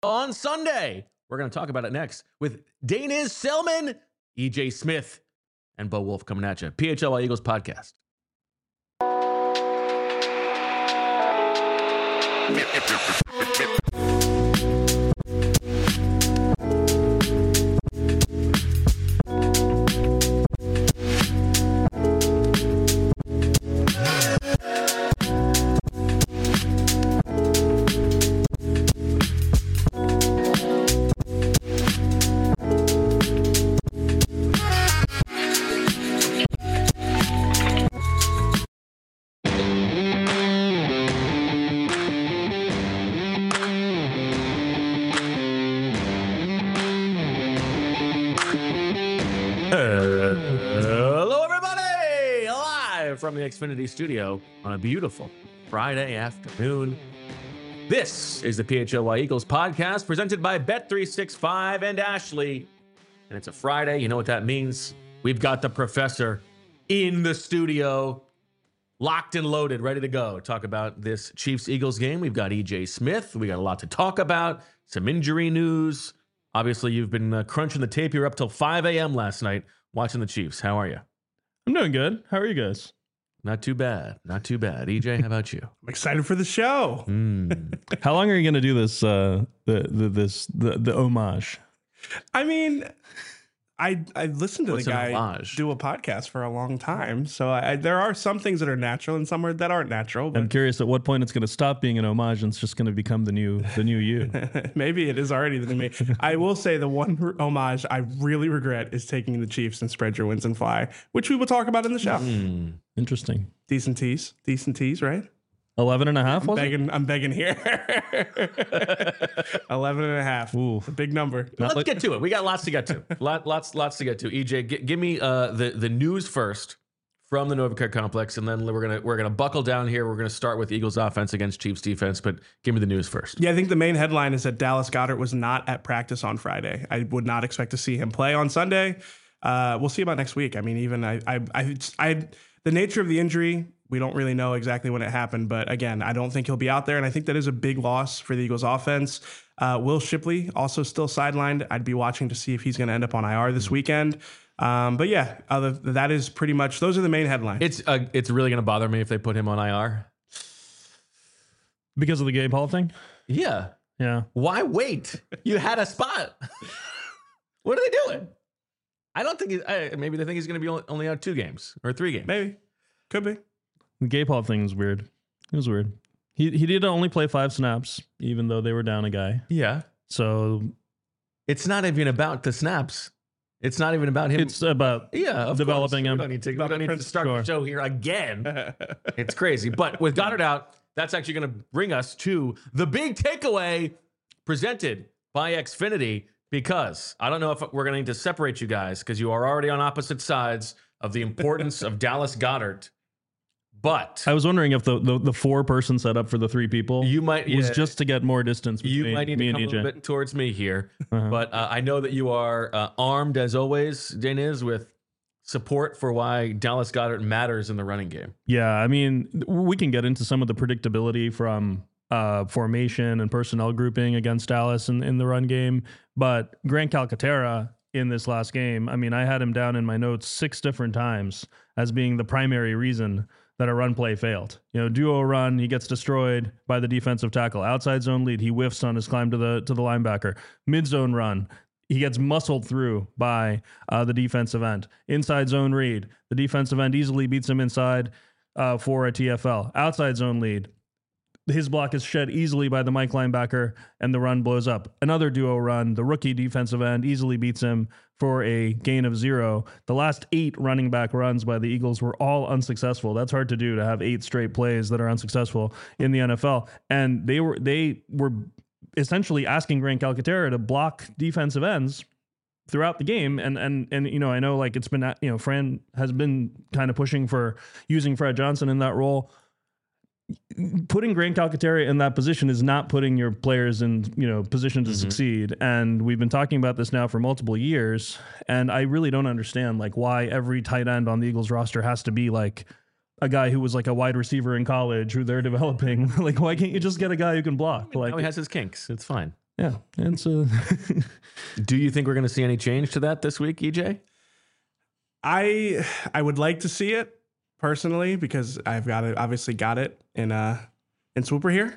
on Sunday. We're going to talk about it next with Daniz Selman, EJ Smith, and Bo Wolf coming at you. PHLY Eagles podcast. Hello, everybody! Live from the Xfinity studio on a beautiful Friday afternoon. This is the PHLY Eagles podcast presented by Bet365 and Ashley. And it's a Friday. You know what that means? We've got the professor in the studio, locked and loaded, ready to go. Talk about this Chiefs-Eagles game. We've got EJ Smith. We got a lot to talk about. Some injury news. Obviously, you've been crunching the tape. You're up till 5 a.m. last night watching the Chiefs. How are you? I'm doing good. How are you guys? Not too bad. Not too bad. EJ, how about you? I'm excited for the show. How long are you going to do this? The homage. I mean, I listened to What's the an guy homage? do a podcast for a long time, so there are some things that are natural and some that aren't natural. I'm But curious at what point it's going to stop being an homage and it's just going to become the new you. maybe it is already the new me. I will say the one homage I really regret is taking the Chiefs and spread your wins and fly, which we will talk about in the show. Interesting. Decent tease, right? 11 and a half, was it? I'm begging here. 11 and a half. Ooh. It's a big number. Let's get to it. We got lots to get to. Lots to get to. EJ, give me the news first from the Novicar complex, and then we're gonna buckle down here. We're gonna start with Eagles offense against Chiefs defense, but give me the news first. Yeah, I think the main headline is that Dallas Goedert was not at practice on Friday. I would not expect to see him play on Sunday. We'll see about next week. I mean, even the nature of the injury, we don't really know exactly when it happened. But again, I don't think he'll be out there, and I think that is a big loss for the Eagles offense. Will Shipley also still sidelined. I'd be watching to see if he's going to end up on IR this weekend. But yeah, that is pretty much, those are the main headlines. It's really gonna bother me if they put him on IR. Because of the Gay Paul thing? Yeah. Yeah. Why wait? You had a spot. What are they doing? I don't think maybe they think he's going to be only out 2 games or 3 games. Maybe. Could be. The Gay Paul thing was weird. It was weird. He did only play 5 snaps, even though they were down a guy. Yeah. So It's not even about the snaps. It's not even about him. it's about developing him. We don't need to start the show here again. It's crazy. But with Goddard out, that's actually going to bring us to the big takeaway presented by Xfinity, because I don't know if we're going to need to separate you guys because you are already on opposite sides of the importance of Dallas Goedert. But I was wondering if the 4-person setup for the 3 people you might was just to get more distance between you might need me to and come a EJ. little bit towards me here. But I know that you are armed, as always, Daniz, with support for why Dallas Goedert matters in the running game. Yeah, I mean, we can get into some of the predictability from formation and personnel grouping against Dallas in the run game. But Grant Calcaterra in this last game, I mean, I had him down in my notes 6 different times as being the primary reason that a run play failed. You know, duo run, he gets destroyed by the defensive tackle. Outside zone lead, he whiffs on his climb to the linebacker. Mid zone run, he gets muscled through by the defensive end. Inside zone read, the defensive end easily beats him inside for a TFL. Outside zone lead, his block is shed easily by the Mike linebacker, and the run blows up. Another duo run, the rookie defensive end easily beats him for a gain of 0. The last 8 running back runs by the Eagles were all unsuccessful. That's hard to do, to have 8 straight plays that are unsuccessful in the NFL. And they were essentially asking Grant Calcaterra to block defensive ends throughout the game. And you know, I know like it's been, you know, Fran has been kind of pushing for using Fred Johnson in that role. Putting Grant Calcaterra in that position is not putting your players in, you know, position to succeed. And we've been talking about this now for multiple years. And I really don't understand like why every tight end on the Eagles roster has to be like a guy who was like a wide receiver in college who they're developing. Like, why can't you just get a guy who can block? Like, Now he has his kinks. It's fine. Yeah, it's Do you think we're going to see any change to that this week, EJ? I would like to see it personally because I've obviously got it in Swooper here.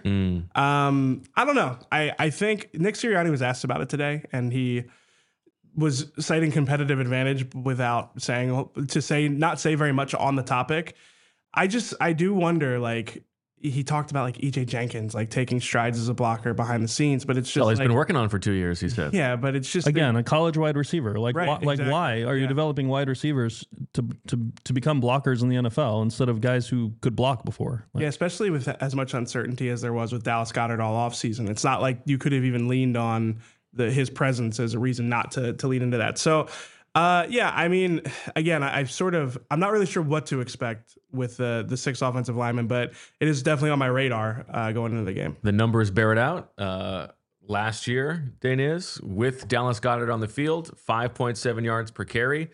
I don't know. I think Nick Sirianni was asked about it today, and he was citing competitive advantage without not say very much on the topic. I do wonder, like, he talked about like EJ Jenkins like taking strides as a blocker behind the scenes, but it's just he's been working on for 2 years, he said. Yeah, but it's just again a college wide receiver. Like, Right, exactly. why are you developing wide receivers to become blockers in the NFL instead of guys who could block before? Like, yeah, especially with as much uncertainty as there was with Dallas Goedert all offseason. It's not like you could have even leaned on his presence as a reason not to lean into that. So, yeah, I mean, again, I'm not really sure what to expect with the 6 offensive linemen, but it is definitely on my radar going into the game. The numbers bear it out. Last year, Daniz, with Dallas Goedert on the field, 5.7 yards per carry,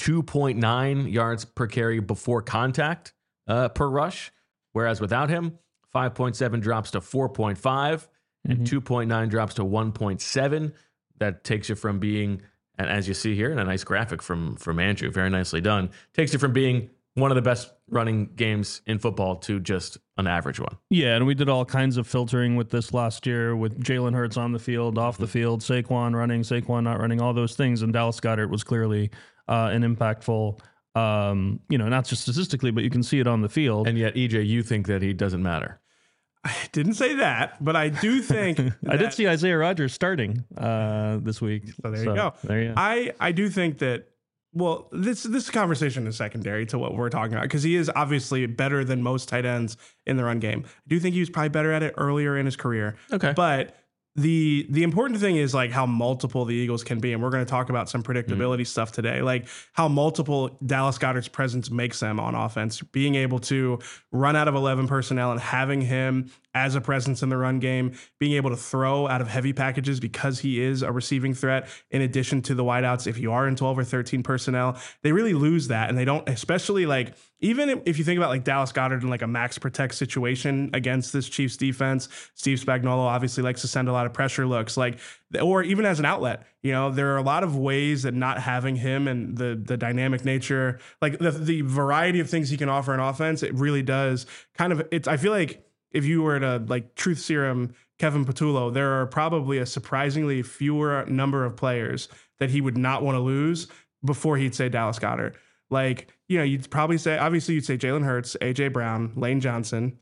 2.9 yards per carry before contact per rush, whereas without him, 5.7 drops to 4.5 and 2.9 drops to 1.7. That takes you from being, and as you see here in a nice graphic from Andrew, very nicely done, takes you from being one of the best running games in football to just an average one. Yeah, and we did all kinds of filtering with this last year with Jalen Hurts on the field, off the field, Saquon running, Saquon not running, all those things. And Dallas Goedert was clearly an impactful, not just statistically, but you can see it on the field. And yet, EJ, you think that he doesn't matter. I didn't say that, but I do think I did see Isaiah Rodgers starting this week. So there you go. There you go. I do think that, well, this conversation is secondary to what we're talking about because he is obviously better than most tight ends in the run game. I do think he was probably better at it earlier in his career. Okay. But the important thing is like how multiple the Eagles can be. And we're going to talk about some predictability stuff today, like how multiple Dallas Goedert's presence makes them on offense, being able to run out of 11 personnel and having him as a presence in the run game, being able to throw out of heavy packages because he is a receiving threat in addition to the wideouts. If you are in 12 or 13 personnel, they really lose that. And they don't, especially like, even if you think about like Dallas Goedert in like a max protect situation against this Chiefs defense, Steve Spagnuolo obviously likes to send a lot of pressure looks, like, or even as an outlet, there are a lot of ways that not having him and the dynamic nature, like the variety of things he can offer in offense, it really does kind of, I feel like if you were to like truth serum Kevin Patullo, there are probably a surprisingly fewer number of players that he would not want to lose before he'd say Dallas Goedert. Like, you'd probably say, obviously you'd say Jalen Hurts, AJ Brown, Lane Johnson,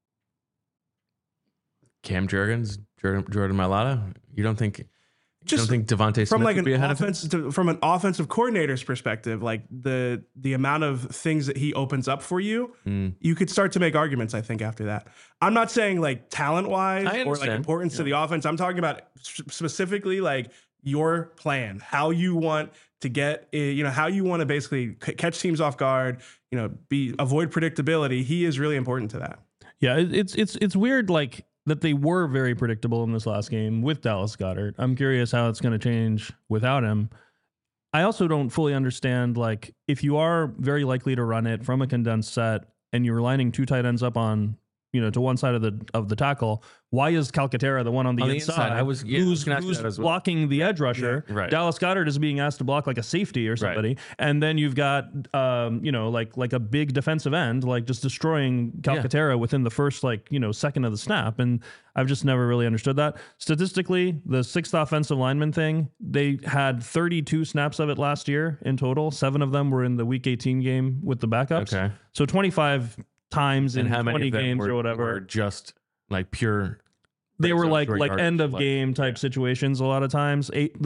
Cam Jurgens, Jordan Mailata. You don't think Devontae Smith like would be ahead of him? From an offensive coordinator's perspective, like the amount of things that he opens up for you, you could start to make arguments, I think, after that. I'm not saying like talent-wise or like importance to the offense. I'm talking about specifically like your plan, how you want to get, how you want to basically catch teams off guard, avoid predictability. He is really important to that. Yeah, it's weird, like, that they were very predictable in this last game with Dallas Goedert. I'm curious how it's going to change without him. I also don't fully understand, like, if you are very likely to run it from a condensed set and you're lining 2 tight ends up on, to one side of the tackle, why is Calcaterra the one on the inside? Who's blocking the edge rusher? Yeah, right. Dallas Goedert is being asked to block like a safety or somebody, and then you've got like a big defensive end, like just destroying Calcaterra within the first second of the snap. And I've just never really understood that. Statistically, the 6th offensive lineman thing, they had 32 snaps of it last year in total. 7 of them were in the Week 18 game with the backups. Okay, so 25 times in 20 games or whatever, were just like pure. They were like end of game type situations a lot of times.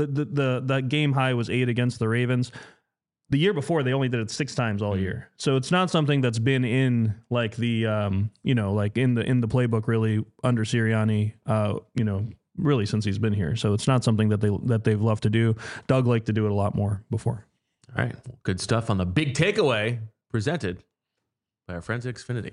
The game high was 8 against the Ravens. The year before they only did it 6 times all year. So it's not something that's been in like the like in the playbook really under Sirianni really since he's been here. So it's not something that they've loved to do. Doug liked to do it a lot more before. All right, good stuff on the big takeaway presented by our friends at Xfinity.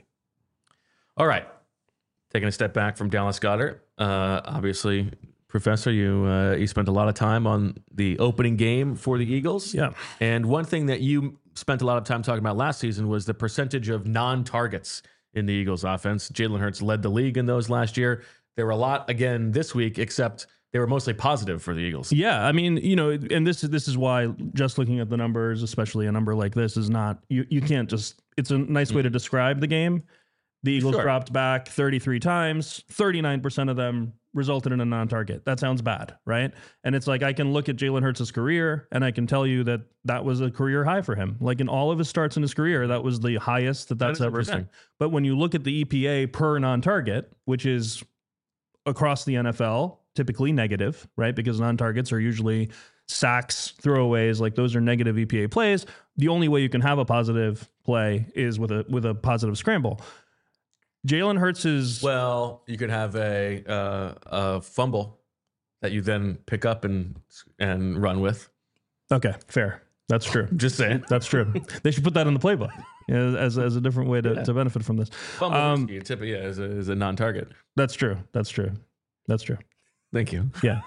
All right, taking a step back from Dallas Goedert. Obviously, Professor, you spent a lot of time on the opening game for the Eagles. Yeah. And one thing that you spent a lot of time talking about last season was the percentage of non-targets in the Eagles offense. Jalen Hurts led the league in those last year. There were a lot again this week, except they were mostly positive for the Eagles. Yeah, I mean, and this is why just looking at the numbers, especially a number like this, is not you can't just. It's a nice way to describe the game. The Eagles dropped back 33 times, 39% of them resulted in a non-target. That sounds bad, right? And it's like I can look at Jalen Hurts' career and I can tell you that was a career high for him. Like in all of his starts in his career, that was the highest that's ever been. But when you look at the EPA per non-target, which is across the NFL, typically negative, right? Because non-targets are usually sacks, throwaways, like those are negative EPA plays. The only way you can have a positive play is with a positive scramble. Jalen Hurts is... Well, you could have a fumble that you then pick up and run with. Okay, fair. That's true. Just saying. That's true. They should put that in the playbook as a different way to benefit from this. Fumble is a non-target. That's true. Thank you. Yeah.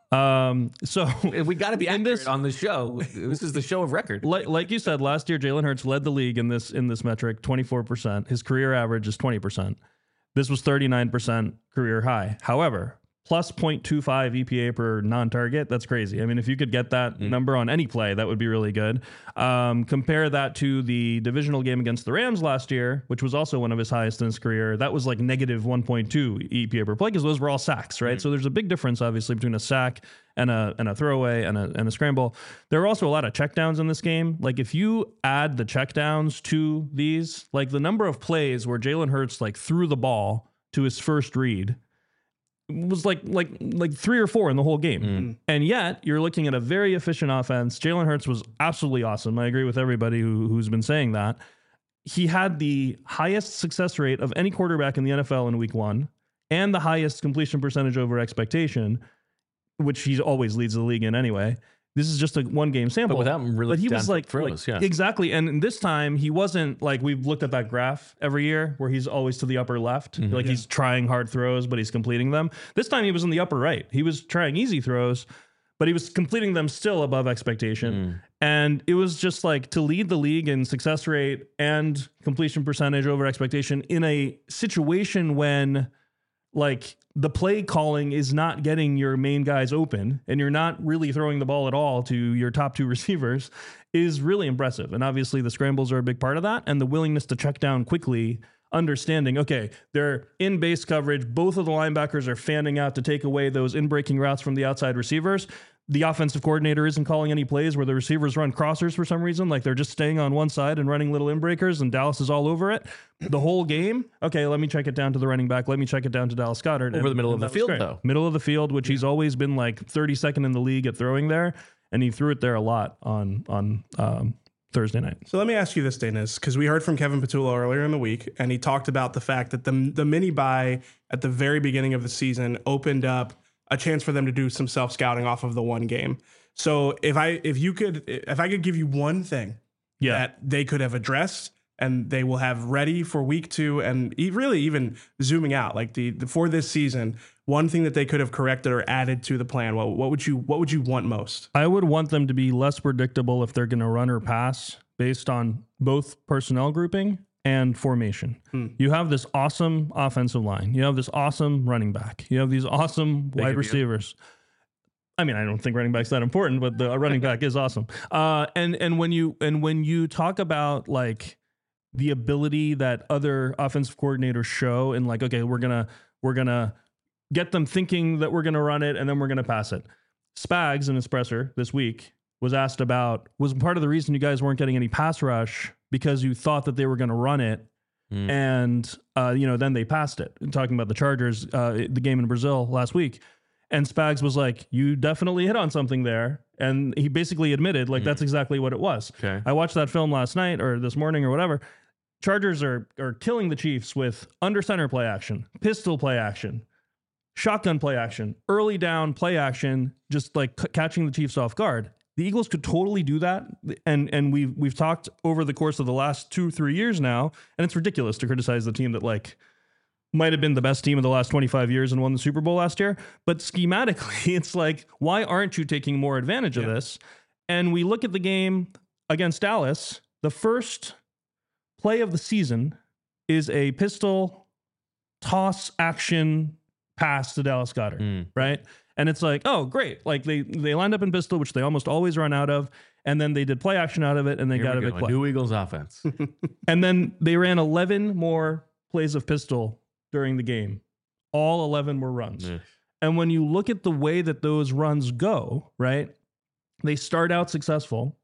So we got to be accurate on the show. This is the show of record. Like you said, last year Jalen Hurts led the league in this metric, 24%. His career average is 20%. This was 39% career high. However, plus 0.25 EPA per non-target, that's crazy. I mean, if you could get that number on any play, that would be really good. Compare that to the divisional game against the Rams last year, which was also one of his highest in his career. That was like negative 1.2 EPA per play because those were all sacks, right? So there's a big difference, obviously, between a sack and a throwaway and a scramble. There are also a lot of checkdowns in this game. Like if you add the checkdowns to these, like the number of plays where Jalen Hurts like threw the ball to his first read was like 3 or 4 in the whole game. And yet you're looking at a very efficient offense. Jalen Hurts was absolutely awesome. I agree with everybody who's been saying that. He had the highest success rate of any quarterback in the NFL in week 1 and the highest completion percentage over expectation, which he always leads the league in anyway. This is just a 1-game sample. But without really, but he was like throws, yeah. Exactly. And this time he wasn't like, we've looked at that graph every year where he's always to the upper left. Like he's trying hard throws, but he's completing them. This time he was in the upper right. He was trying easy throws, but he was completing them still above expectation. And it was just like to lead the league in success rate and completion percentage over expectation in a situation when like the play calling is not getting your main guys open and you're not really throwing the ball at all to your top 2 receivers is really impressive. And obviously the scrambles are a big part of that, and the willingness to check down quickly, understanding, okay, they're in base coverage. Both of the linebackers are fanning out to take away those in-breaking routes from the outside receivers. The offensive coordinator isn't calling any plays where the receivers run crossers for some reason. Like they're just staying on one side and running little in-breakers, and Dallas is all over it the whole game. Okay, let me check it down to the running back. Let me check it down to Dallas Goedert. Over the middle of the field, though. Middle of the field, which he's always been like 32nd in the league at throwing there. And he threw it there a lot on Thursday night. So let me ask you this, Dennis, because we heard from Kevin Patullo earlier in the week, and he talked about the fact that the mini bye at the very beginning of the season opened up a chance for them to do some self-scouting off of the 1 game. So if I could give you one thing that they could have addressed and they will have ready for week 2, and really even zooming out, like for this season, one thing that they could have corrected or added to the plan, what would you want most? I would want them to be less predictable if they're going to run or pass based on both personnel grouping and formation. You have this awesome offensive line. You have this awesome running back. You have these awesome wide receivers. I mean, I don't think running back's that important, but the running back is awesome. And when you talk about like the ability that other offensive coordinators show, and like, okay, we're gonna get them thinking that we're gonna run it and then we're gonna pass it. Spags in his presser this week was asked about, was part of the reason you guys weren't getting any pass rush because you thought that they were going to run it, and then they passed it. And talking about the Chargers, the game in Brazil last week, and Spags was like, "You definitely hit on something there," and he basically admitted, like, that's exactly what it was. Okay. I watched that film last night or this morning or whatever. Chargers are killing the Chiefs with under center play action, pistol play action, shotgun play action, early down play action, just like catching the Chiefs off guard. The Eagles could totally do that, and we've talked over the course of the last 2-3 years now, and it's ridiculous to criticize the team that like might have been the best team of the last 25 years and won the Super Bowl last year. But schematically, it's like, why aren't you taking more advantage of this? And we look at the game against Dallas. The first play of the season is a pistol toss action pass to Dallas Goedert, right? And it's like, oh, great. Like they lined up in pistol, which they almost always run out of. And then they did play action out of it, and they got a big play. New Eagles offense. And then they ran 11 more plays of pistol during the game. All 11 were runs. Yeah. And when you look at the way that those runs go, right, they start out successful.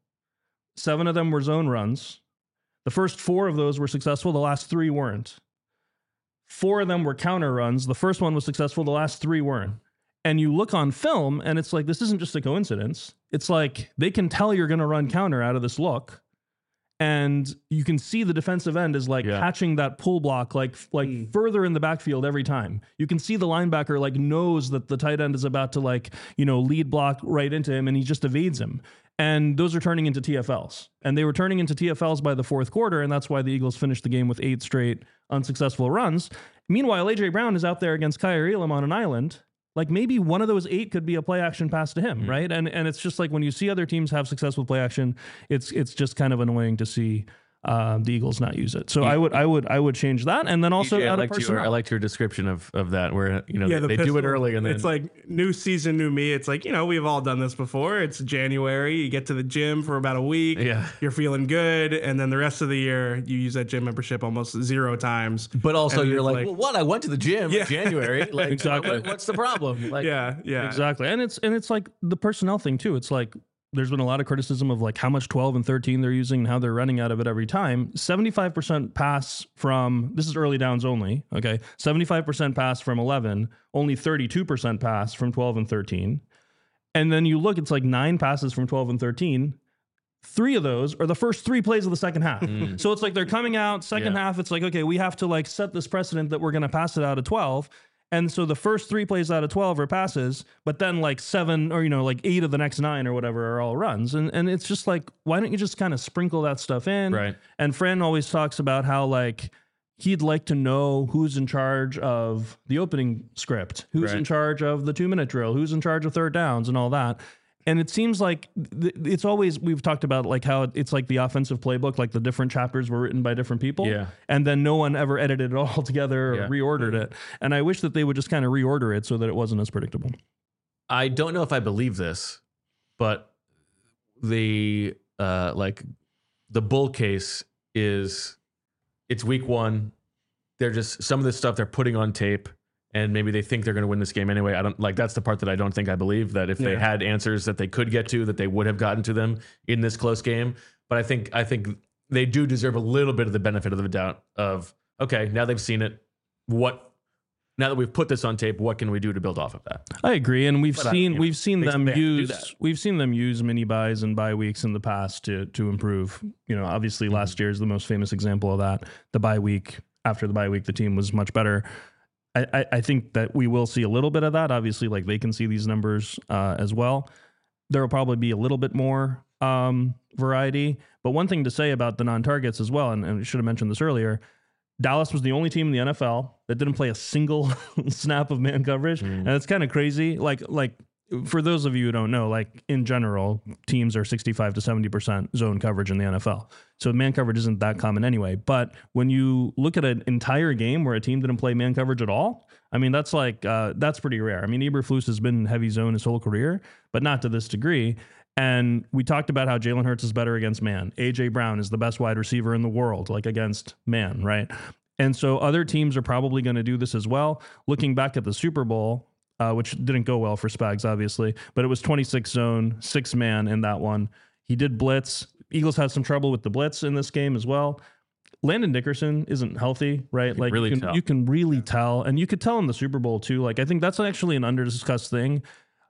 7 of them were zone runs. The first 4 of those were successful. The last 3 weren't. 4 of them were counter runs. The first one was successful. The last 3 weren't. And you look on film, and it's like, this isn't just a coincidence. It's like they can tell you're going to run counter out of this look. And you can see the defensive end is like catching that pull block like further in the backfield every time. You can see the linebacker like knows that the tight end is about to like, lead block right into him, and he just evades him. And those are turning into TFLs. And they were turning into TFLs by the fourth quarter, and that's why the Eagles finished the game with 8 straight unsuccessful runs. Meanwhile, A.J. Brown is out there against Kaiir Elam on an island. Like maybe one of those 8 could be a play action pass to him, right? And it's just like when you see other teams have success with play action, it's just kind of annoying to see the Eagles not use it. So I would change that, and then also I liked your description of that, where they do it early, and then it's like new season, new me. It's like we've all done this before. It's January, you get to the gym for about a week, you're feeling good, and then the rest of the year you use that gym membership almost 0 times. But also you're like, well, what? I went to the gym in January. Like, exactly. What's the problem? Like, yeah, exactly. And it's like the personnel thing too. It's like, there's been a lot of criticism of like how much 12 and 13 they're using and how they're running out of it every time. 75% pass from, this is early downs only, okay? 75% pass from 11, only 32% pass from 12 and 13. And then you look, it's like 9 passes from 12 and 13. 3 of those are the first 3 plays of the second half. So it's like they're coming out, second half, it's like, okay, we have to like set this precedent that we're going to pass it out of 12. And so the first 3 plays out of 12 are passes, but then like 7 or, like 8 of the next 9 or whatever are all runs. And it's just like, why don't you just kind of sprinkle that stuff in? Right. And Fran always talks about how like he'd like to know who's in charge of the opening script, who's in charge of the 2-minute drill, who's in charge of third downs and all that. And it seems like it's always, we've talked about like how it's like the offensive playbook, like the different chapters were written by different people. Yeah. And then no one ever edited it all together or reordered it. And I wish that they would just kind of reorder it so that it wasn't as predictable. I don't know if I believe this, but the bull case is it's week 1. They're just, some of this stuff they're putting on tape, and maybe they think they're going to win this game anyway. I don't like, that's the part that I don't think I believe, that if they had answers that they could get to, that they would have gotten to them in this close game. But I think they do deserve a little bit of the benefit of the doubt of, okay, now they've seen it. Now that we've put this on tape, what can we do to build off of that? I agree, and we've seen them use mini buys and bye weeks in the past to improve. Obviously last year is the most famous example of that. The bye week, after the bye week, the team was much better. I think that we will see a little bit of that. Obviously, like they can see these numbers as well. There will probably be a little bit more variety. But one thing to say about the non-targets as well, and I should have mentioned this earlier, Dallas was the only team in the NFL that didn't play a single snap of man coverage. And it's kind of crazy. Like for those of you who don't know, like in general, teams are 65 to 70% zone coverage in the NFL. So man coverage isn't that common anyway. But when you look at an entire game where a team didn't play man coverage at all, I mean, that's like, that's pretty rare. I mean, Eberflus has been in heavy zone his whole career, but not to this degree. And we talked about how Jalen Hurts is better against man. A.J. Brown is the best wide receiver in the world, like against man, right? And so other teams are probably going to do this as well. Looking back at the Super Bowl, which didn't go well for Spags, obviously, but it was 26 zone, 6 man in that one. He did blitz. Eagles had some trouble with the blitz in this game as well. Landon Dickerson isn't healthy, right? Like you can really tell, and you could tell in the Super Bowl too. Like I think that's actually an under-discussed thing,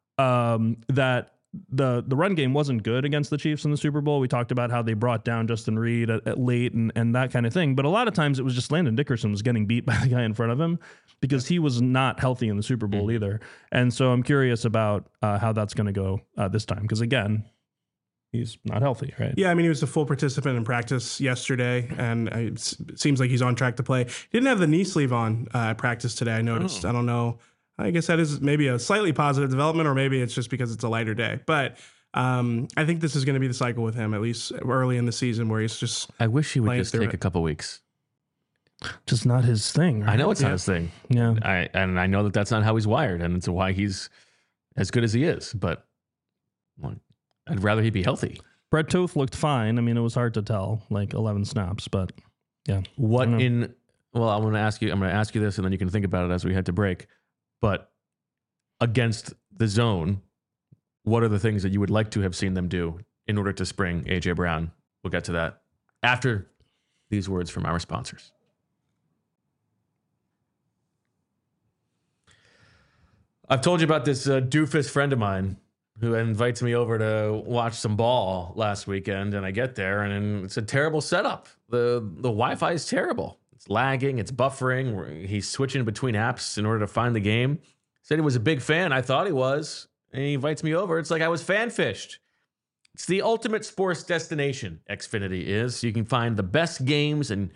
that the run game wasn't good against the Chiefs in the Super Bowl. We talked about how they brought down Justin Reed at late and that kind of thing. But a lot of times it was just Landon Dickerson was getting beat by the guy in front of him because he was not healthy in the Super Bowl either. And so I'm curious about how that's going to go this time. Because again, he's not healthy, right? Yeah, I mean, he was a full participant in practice yesterday, and it seems like he's on track to play. He didn't have the knee sleeve on at practice today, I noticed. I don't know. I guess that is maybe a slightly positive development, or maybe it's just because it's a lighter day. But I think this is going to be the cycle with him, at least early in the season, where he's just I wish he would just take a couple weeks. Just not his thing, right? I know it's not his thing. Yeah. I know that that's not how he's wired, and it's why he's as good as he is, but well, I'd rather he be healthy. Brett Toth looked fine. I mean, it was hard to tell, like 11 snaps, but yeah. Well, I'm going to ask you this, and then you can think about it as we head to break. But against the zone, what are the things that you would like to have seen them do in order to spring AJ Brown? We'll get to that after these words from our sponsors. I've told you about this doofus friend of mine who invites me over to watch some ball last weekend, and I get there, and it's a terrible setup. The Wi-Fi is terrible. It's lagging. It's buffering. He's switching between apps in order to find the game. Said he was a big fan. I thought he was. And he invites me over. It's like I was fan-fished. It's the ultimate sports destination, Xfinity is. You can find the best games and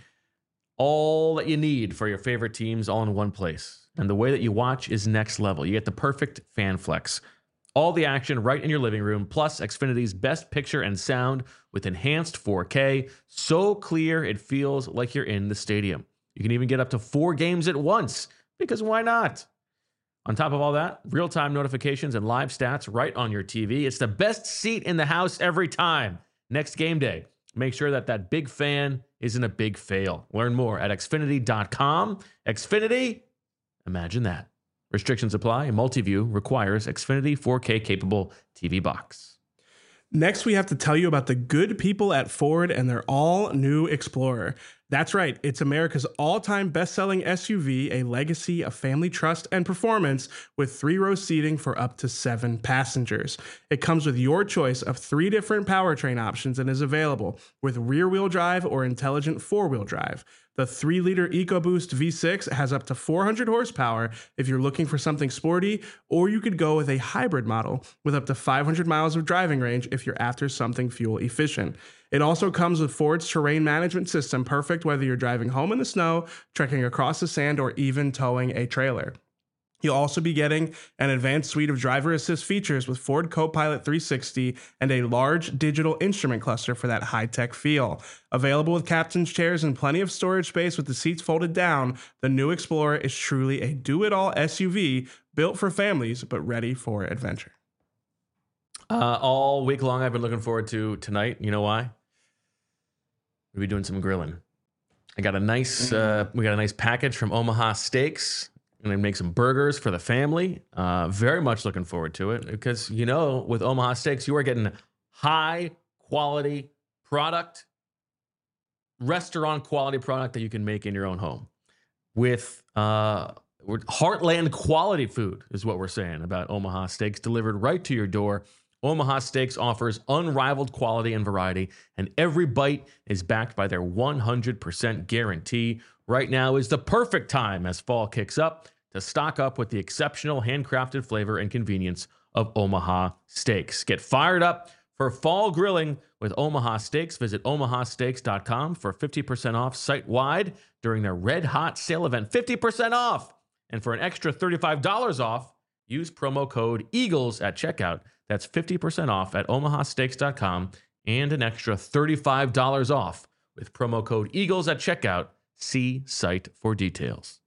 all that you need for your favorite teams all in one place. And the way that you watch is next level. You get the perfect fan flex. All the action right in your living room, plus Xfinity's best picture and sound with enhanced 4K. So clear, it feels like you're in the stadium. You can even get up to 4 games at once, because why not? On top of all that, real-time notifications and live stats right on your TV. It's the best seat in the house every time. Next game day, make sure that big fan isn't a big fail. Learn more at Xfinity.com. Xfinity, imagine that. Restrictions apply. Multiview requires Xfinity 4K capable TV box. Next, we have to tell you about the good people at Ford and their all-new Explorer. That's right, it's America's all-time best-selling SUV, a legacy of family trust and performance with 3-row seating for up to 7 passengers. It comes with your choice of 3 different powertrain options and is available with rear-wheel drive or intelligent 4-wheel drive. The 3-liter EcoBoost V6 has up to 400 horsepower if you're looking for something sporty, or you could go with a hybrid model with up to 500 miles of driving range if you're after something fuel efficient. It also comes with Ford's terrain management system, perfect whether you're driving home in the snow, trekking across the sand, or even towing a trailer. You'll also be getting an advanced suite of driver assist features with Ford Copilot 360 and a large digital instrument cluster for that high-tech feel. Available with captain's chairs and plenty of storage space with the seats folded down, the new Explorer is truly a do-it-all SUV built for families but ready for adventure. All week long, I've been looking forward to tonight. You know why? We'll be doing some grilling. I got a nice, we got a nice package from Omaha Steaks. I'm going to make some burgers for the family. Very much looking forward to it because, you know, with Omaha Steaks, you are getting high quality product, restaurant quality product that you can make in your own home with heartland quality food is what we're saying about Omaha Steaks delivered right to your door. Omaha Steaks offers unrivaled quality and variety, and every bite is backed by their 100% guarantee. Right now is the perfect time as fall kicks up to stock up with the exceptional handcrafted flavor and convenience of Omaha Steaks. Get fired up for fall grilling with Omaha Steaks. Visit omahasteaks.com for 50% off site-wide during their Red Hot Sale event. 50% off! And for an extra $35 off, use promo code EAGLES at checkout. That's 50% off at omahasteaks.com and an extra $35 off with promo code EAGLES at checkout. See site for details.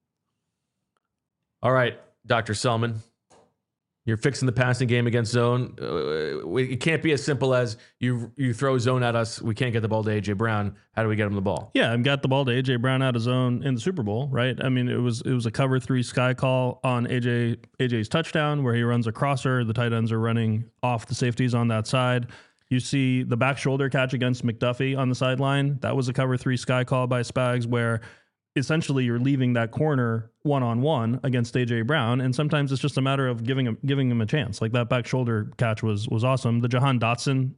All right, Dr. Selman, you're fixing the passing game against zone. It can't be as simple as you throw zone at us. We can't get the ball to A.J. Brown. How do we get him the ball? Yeah, I've got the ball to A.J. Brown out of zone in the Super Bowl, right? I mean, it was a cover 3 sky call on AJ's touchdown where he runs a crosser. The tight ends are running off the safeties on that side. You see the back shoulder catch against McDuffie on the sideline. That was a cover 3 sky call by Spags where essentially you're leaving that corner one-on-one against A.J. Brown, and sometimes it's just a matter of giving him a chance. Like that back shoulder catch was awesome. The Jahan Dotson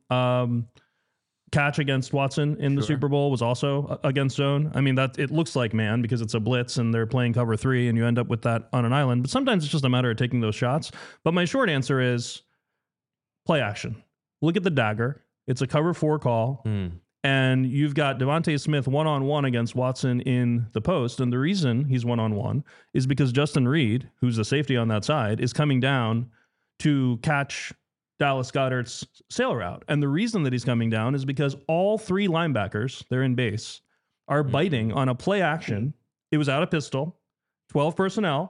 catch against Watson in the Super Bowl was also against zone. I mean, that it looks like man because it's a blitz and they're playing cover 3 and you end up with that on an island. But sometimes it's just a matter of taking those shots. But my short answer is play action. Look at the dagger. It's a cover 4 call. And you've got Devontae Smith one-on-one against Watson in the post. And the reason he's one-on-one is because Justin Reed, who's the safety on that side, is coming down to catch Dallas Goedert's sail route. And the reason that he's coming down is because all 3 linebackers, they're in base, are biting on a play action. It was out of pistol, 12 personnel,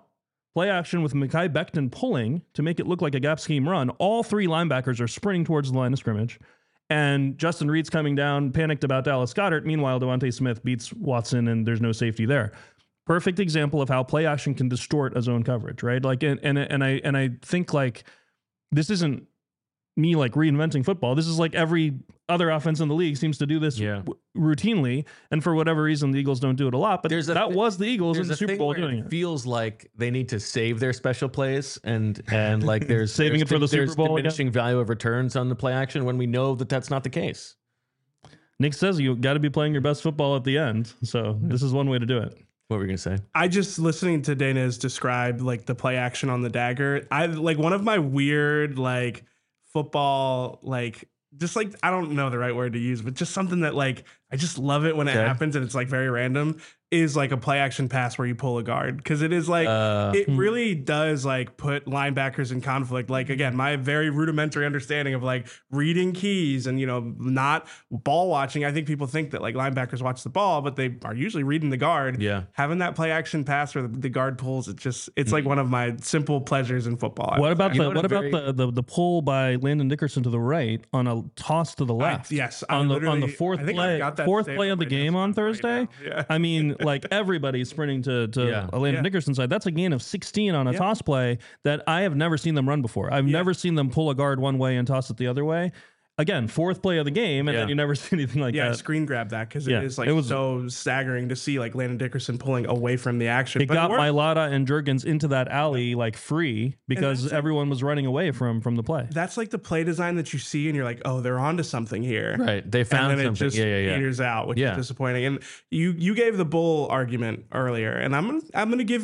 play action with Mekhi Becton pulling to make it look like a gap scheme run. All three linebackers are sprinting towards the line of scrimmage. And Justin Reed's coming down, panicked about Dallas Goedert. Meanwhile, Devontae Smith beats Watson, and there's no safety there. Perfect example of how play action can distort a zone coverage, right? Like, and I think like this isn't me like reinventing football. This is like every other offense in the league seems to do this routinely, and for whatever reason, the Eagles don't do it a lot. But that was the Eagles in the Super Bowl doing it. Feels like they need to save their special plays, and like there's saving it for the Super Bowl. There's diminishing value of returns on the play action when we know that that's not the case. Nick says you got to be playing your best football at the end, so this is one way to do it. What were you gonna say? I just listening to Dana's describe like the play action on the dagger. I like one of my weird like football like just like I don't know the right word to use, but just something that like I just love it when it happens and it's like very random is like a play action pass where you pull a guard, because it is like it really does like put linebackers in conflict. Like again, my very rudimentary understanding of like reading keys and not ball watching. I think people think that like linebackers watch the ball, but they are usually reading the guard. Yeah, having that play action pass where the guard pulls, it's like one of my simple pleasures in football. What about the pull by Landon Dickerson to the right on a toss to the left? On the fourth play of the game on Thursday. Yeah. I mean, like everybody's sprinting to Landon Dickerson's side. That's a gain of 16 on a toss play that I have never seen them run before. I've never seen them pull a guard one way and toss it the other way. Again, fourth play of the game, and then you never see anything like that. Yeah, screen grab that, because it is like so staggering to see like Landon Dickerson pulling away from the action. It got Mailata and Jurgens into that alley like free because everyone was running away from the play. That's like the play design that you see and you're like, oh, they're onto something here. Right. They found and then something. It just peters out, which is disappointing. And you gave the bull argument earlier, and I'm gonna give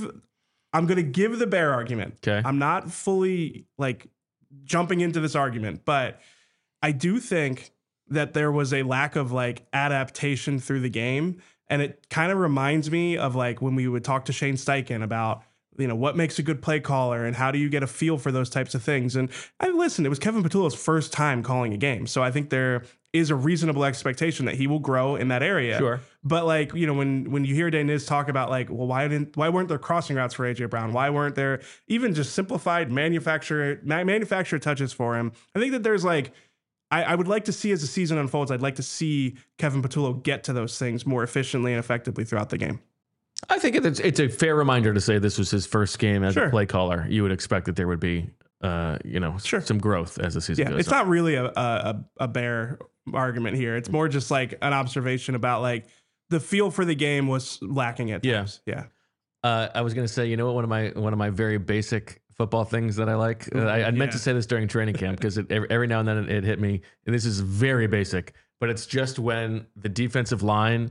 the bear argument. Okay. I'm not fully like jumping into this argument, but I do think that there was a lack of like adaptation through the game. And it kind of reminds me of like when we would talk to Shane Steichen about, what makes a good play caller and how do you get a feel for those types of things. And it was Kevin Patullo's first time calling a game. So I think there is a reasonable expectation that he will grow in that area. Sure. But like, when you hear Daniz talk about like, well, why weren't there crossing routes for AJ Brown? Why weren't there even just simplified manufacturer touches for him? I think that there's like, I would like to see as the season unfolds, I'd like to see Kevin Patullo get to those things more efficiently and effectively throughout the game. I think it's a fair reminder to say this was his first game as a play caller. You would expect that there would be, some growth as the season goes on. It's not really a bear argument here. It's more just like an observation about like the feel for the game was lacking at times. Yeah. I was going to say, one of my very basic football things that I like. I meant to say this during training camp because every now and then it hit me. And this is very basic, but it's just when the defensive line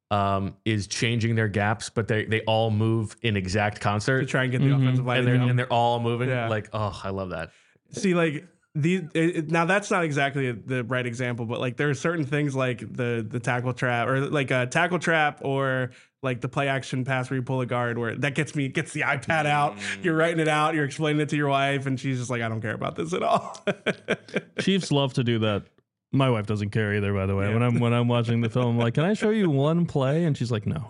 is changing their gaps, but they all move in exact concert to try and get the offensive line, and they're all moving. Like, oh, I love that. See, like now that's not exactly the right example, but like there are certain things like the tackle trap or like a tackle trap or like the play action pass where you pull a guard where that gets the iPad out. You're writing it out. You're explaining it to your wife, and she's just like, I don't care about this at all. Chiefs love to do that. My wife doesn't care either, by the way. Yeah. When I'm watching the film, I'm like, can I show you one play? And she's like, no.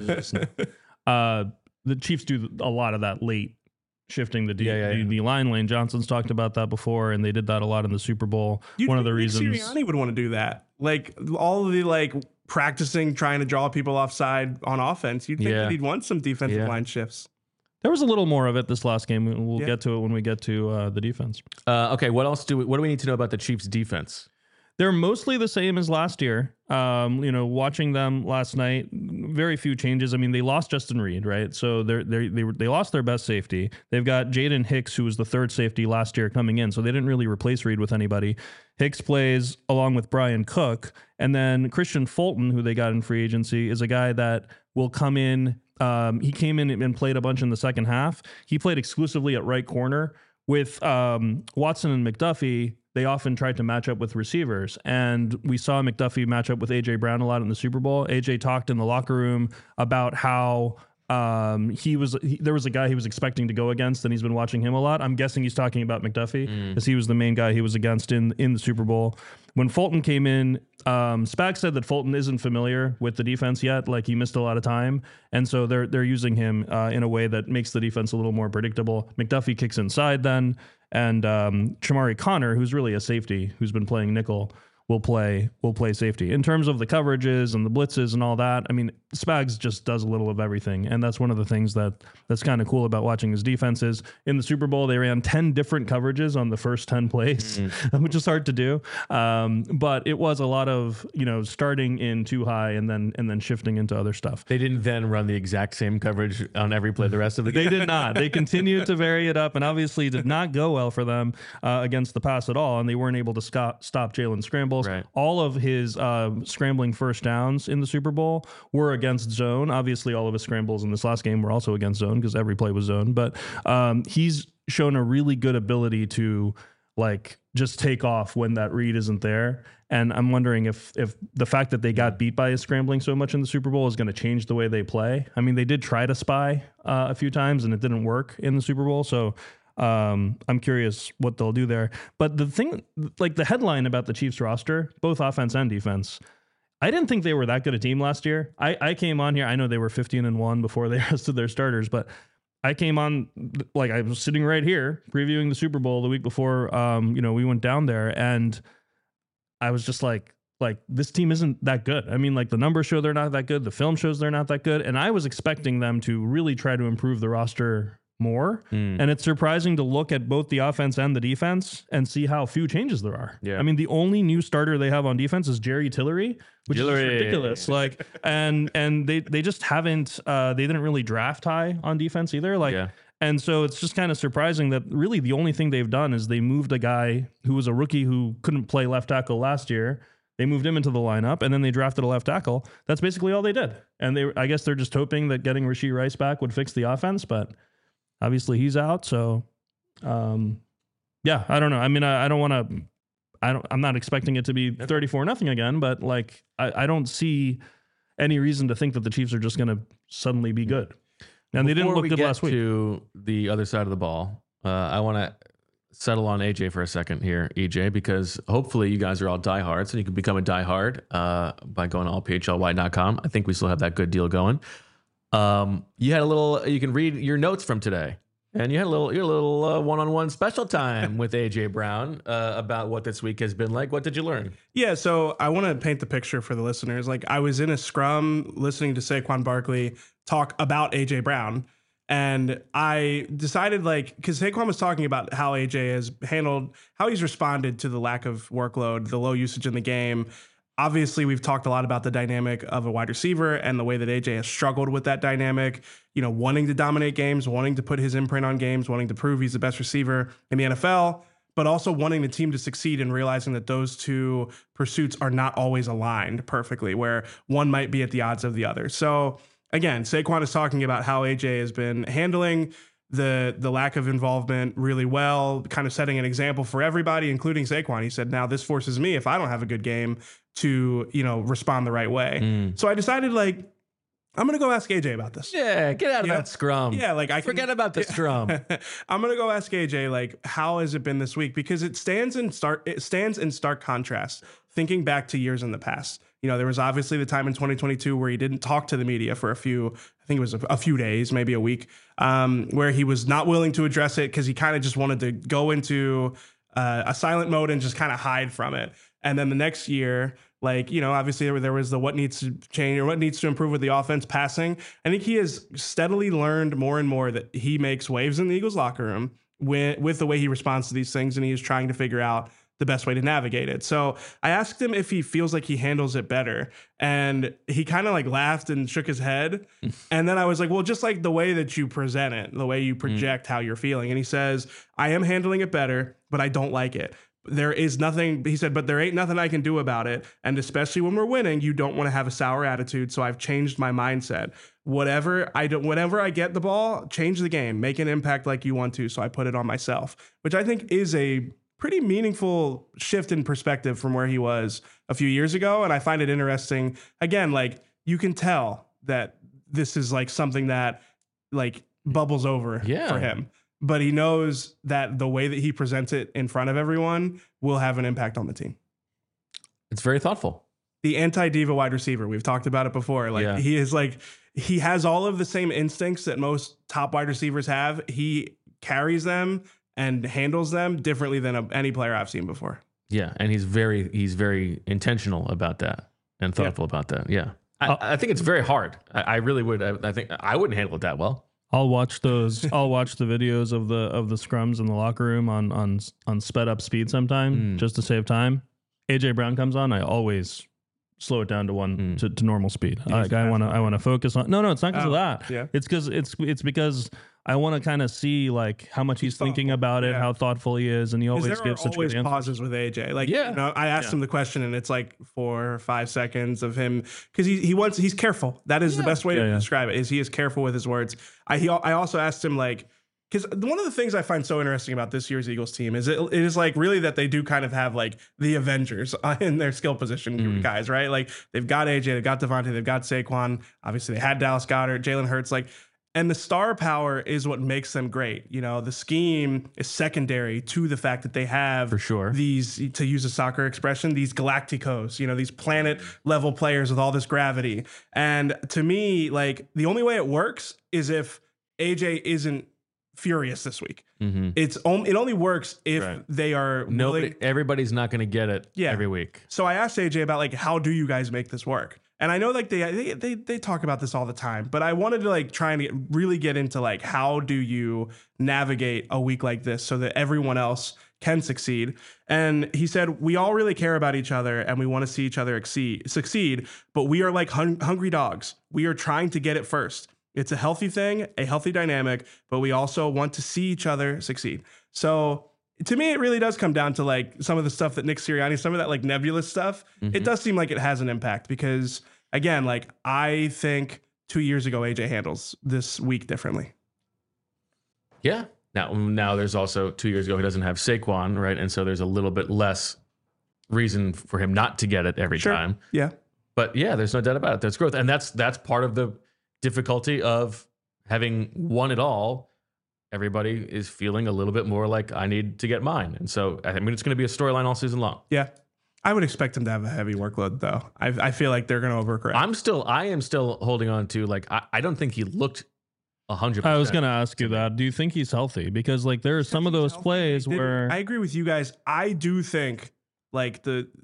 The Chiefs do a lot of that late shifting the line. Lane Johnson's talked about that before, and they did that a lot in the Super Bowl. One of the reasons Sirianni would want to do that, like all of the like practicing trying to draw people offside on offense. You'd think that he'd want some defensive line shifts. There was a little more of it this last game. We'll get to it when we get to the defense. Okay, what do we need to know about the Chiefs' defense? They're mostly the same as last year. Watching them last night, very few changes. I mean, they lost Justin Reed, right? So they lost their best safety. They've got Jaden Hicks, who was the third safety last year, coming in. So they didn't really replace Reed with anybody. Hicks plays along with Brian Cook. And then Christian Fulton, who they got in free agency, is a guy that will come in. He came in and played a bunch in the second half. He played exclusively at right corner. With Watson and McDuffie, they often tried to match up with receivers. And we saw McDuffie match up with A.J. Brown a lot in the Super Bowl. A.J. talked in the locker room about how There was a guy he was expecting to go against, and he's been watching him a lot. I'm guessing he's talking about McDuffie because he was the main guy he was against in the Super Bowl. When Fulton came in, Spags said that Fulton isn't familiar with the defense yet. Like, he missed a lot of time, and so they're using him in a way that makes the defense a little more predictable. McDuffie kicks inside then, and Chamari Connor, who's really a safety, who's been playing nickel, will play safety. In terms of the coverages and the blitzes and all that, I mean, Spags just does a little of everything, and that's one of the things that's kind of cool about watching his defenses. In the Super Bowl, they ran 10 different coverages on the first 10 plays, which is hard to do. But it was a lot of, starting in too high and then shifting into other stuff. They didn't then run the exact same coverage on every play the rest of the game. They did not. They continued to vary it up, and obviously did not go well for them against the pass at all, and they weren't able to stop Jalen scrambles. Right. All of his scrambling first downs in the Super Bowl were against zone. Obviously, all of his scrambles in this last game were also against zone because every play was zone. But he's shown a really good ability to just take off when that read isn't there. And I'm wondering if the fact that they got beat by his scrambling so much in the Super Bowl is going to change the way they play. I mean, they did try to spy a few times, and it didn't work in the Super Bowl. So I'm curious what they'll do there. But the thing, the headline about the Chiefs roster, both offense and defense, I didn't think they were that good a team last year. I came on here, I know they were 15-1 before they rested their starters, but I came on, I was sitting right here previewing the Super Bowl the week before, we went down there, and I was just like, this team isn't that good. I mean, the numbers show they're not that good. The film shows they're not that good. And I was expecting them to really try to improve the roster more. And it's surprising to look at both the offense and the defense and see how few changes there are. Yeah. I mean, the only new starter they have on defense is Jerry Tillery, which is ridiculous. And they just haven't, they didn't really draft high on defense either. And so it's just kind of surprising that really the only thing they've done is they moved a guy who was a rookie who couldn't play left tackle last year. They moved him into the lineup, and then they drafted a left tackle. That's basically all they did. And I guess they're just hoping that getting Rashee Rice back would fix the offense, but obviously he's out. So, I don't know. I mean, I'm not expecting it to be 34-0 again, but I don't see any reason to think that the Chiefs are just going to suddenly be good. And they didn't look good last week. To the other side of the ball, I want to settle on AJ for a second here, EJ, because hopefully you guys are all diehards and you can become a diehard by going to allphlY.com. I think we still have that good deal going. You had you can read your notes from today, and you had your little one-on-one special time with AJ Brown about what this week has been like. What did you learn? Yeah, so I want to paint the picture for the listeners. I was in a scrum listening to Saquon Barkley talk about AJ Brown, and I decided because Saquon was talking about how AJ has handled, how he's responded to the lack of workload, the low usage in the game. Obviously, we've talked a lot about the dynamic of a wide receiver and the way that AJ has struggled with that dynamic, wanting to dominate games, wanting to put his imprint on games, wanting to prove he's the best receiver in the NFL, but also wanting the team to succeed and realizing that those two pursuits are not always aligned perfectly, where one might be at the odds of the other. So again, Saquon is talking about how AJ has been handling the lack of involvement really well, kind of setting an example for everybody, including Saquon. He said, now this forces me, if I don't have a good game, to, respond the right way. So I decided I'm going to go ask AJ about this. Yeah, get out of that scrum. Yeah, I forget about the scrum. I'm going to go ask AJ how has it been this week, because it stands in stark contrast thinking back to years in the past. There was obviously the time in 2022 where he didn't talk to the media for a few days, maybe a week, where he was not willing to address it because he kind of just wanted to go into a silent mode and just kind of hide from it. And then the next year, obviously there was the what needs to change or what needs to improve with the offense passing. I think he has steadily learned more and more that he makes waves in the Eagles locker room with the way he responds to these things, and he is trying to figure out the best way to navigate it. So I asked him if he feels like he handles it better, and he kind of laughed and shook his head. And then I was like, well, just the way that you present it, the way you project how you're feeling. And he says, I am handling it better, but I don't like it. There is nothing, he said, but there ain't nothing I can do about it. And especially when we're winning, you don't want to have a sour attitude. So I've changed my mindset. Whenever I get the ball, change the game, make an impact like you want to. So I put it on myself, which I think is a pretty meaningful shift in perspective from where he was a few years ago. And I find it interesting. Again, you can tell that this is like something that like bubbles over Yeah. for him. But he knows that the way that he presents it in front of everyone will have an impact on the team. It's very thoughtful. The anti-diva wide receiver, we've talked about it before. Like he is like, he has all of the same instincts that most top wide receivers have. He carries them and handles them differently than any player I've seen before. Yeah, and he's very intentional about that and thoughtful about that. Yeah, I think it's very hard. I really would. I think I wouldn't handle it that well. I'll watch the videos of the scrums in the locker room on sped up speed sometime just to save time. AJ Brown comes on, I always slow it down to one to normal speed. I want to focus on. No, it's not because of that. Yeah. It's because I want to kind of see like how much he's thinking about it, how thoughtful he is, and he always there gives are such always good answers. pauses with AJ. Like, you know, I asked him the question, and it's like 4 or 5 seconds of him because he's careful. That is the best way to describe it. Is he is careful with his words. I also asked him like. Because one of the things I find so interesting about this year's Eagles team is it is like really that they do kind of have like the Avengers in their skill position guys, right? Like they've got AJ, they've got Devontae, they've got Saquon. Obviously, they had Dallas Goedert, Jalen Hurts, like, and the star power is what makes them great. You know, the scheme is secondary to the fact that they have For sure. these, to use a soccer expression, these Galacticos, you know, these planet level players with all this gravity. And to me, like the only way it works is if AJ isn't furious this week. It only works if they are Everybody's not going to get it every week. So I asked AJ about like, how do you guys make this work? And I know like they talk about this all the time, but I wanted to like try and really get into like, how do you navigate a week like this so that everyone else can succeed? And he said, we all really care about each other and we want to see each other succeed, but we are like hungry dogs. We are trying to get it first. It's a healthy thing, a healthy dynamic, but we also want to see each other succeed. So to me, it really does come down to like some of the stuff that Nick Sirianni, some of that like nebulous stuff. It does seem like it has an impact because again, like I think 2 years ago, AJ handles this week differently. Yeah. Now there's also 2 years ago, he doesn't have Saquon, right? And so there's a little bit less reason for him not to get it every time. Yeah. But yeah, there's no doubt about it. There's growth. And that's part of the difficulty of having won it all. Everybody is feeling a little bit more like I need to get mine. And so, I mean, it's going to be a storyline all season long. Yeah. I would expect him to have a heavy workload though. I feel like they're going to overcorrect. I am still holding on to like, I don't think he looked 100%. I was going to ask you that. Do you think he's healthy? Because like there are some of those plays where I agree with you guys. I do think like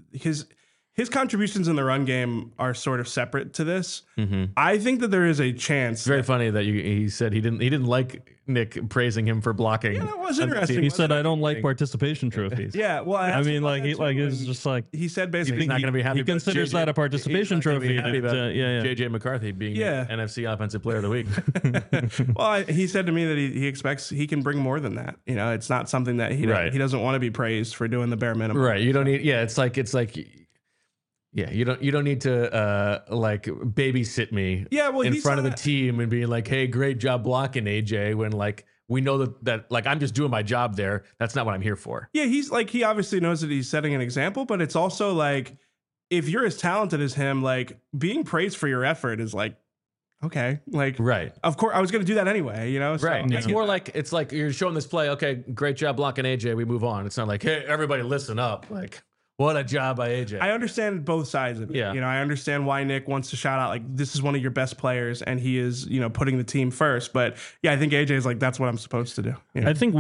his contributions in the run game are sort of separate to this. I think that there is a chance. It's very funny that he said he didn't like Nick praising him for blocking. Yeah, that was interesting. he said, I don't like participation trophies. Yeah, well, I mean, like it's just like he said basically he's not going to be happy. He considers that a participation trophy. JJ McCarthy being NFC Offensive Player of the Week. Well, he said to me that he expects he can bring more than that. You know, it's not something that he doesn't want to be praised for doing the bare minimum. Right. You don't need. Yeah, it's like. Yeah, you don't need to like babysit me in front of the team and be like, hey, great job blocking, AJ, when like we know that like I'm just doing my job there. That's not what I'm here for. Yeah, he obviously knows that he's setting an example, but it's also like if you're as talented as him, like being praised for your effort is like, okay, like of course I was gonna do that anyway, you know? So, It's more like it's like you're showing this play, okay, great job blocking AJ, we move on. It's not like, hey, everybody listen up. Like, what a job by AJ. I understand both sides of it. Yeah. You know, I understand why Nick wants to shout out like this is one of your best players and he is, you know, putting the team first. But yeah, I think AJ is like that's what I'm supposed to do. You know? I think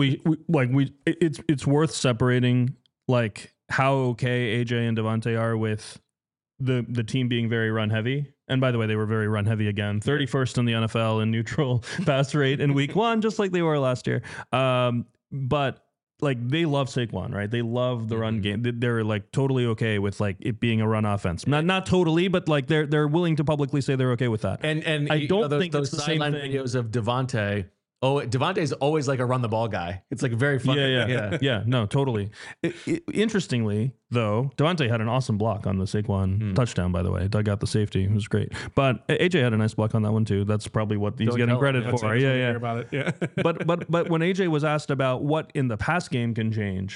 it's worth separating like how okay AJ and Devontae are with the team being very run heavy. And by the way, they were very run heavy again. 31st in the NFL in neutral pass rate in week 1, just like they were last year. But like they love Saquon, right? They love the run game. They're like totally okay with like it being a run offense. Not totally, but like they're willing to publicly say they're okay with that. And I don't think those sideline videos of Devontae. Oh, Devontae's always like a run the ball guy. It's like very funny. Yeah. No, totally. Interestingly, though, Devontae had an awesome block on the Saquon touchdown. By the way, dug out the safety. It was great. But AJ had a nice block on that one too. That's probably what he's getting credit for. Yeah. About it. Yeah. but when AJ was asked about what in the pass game can change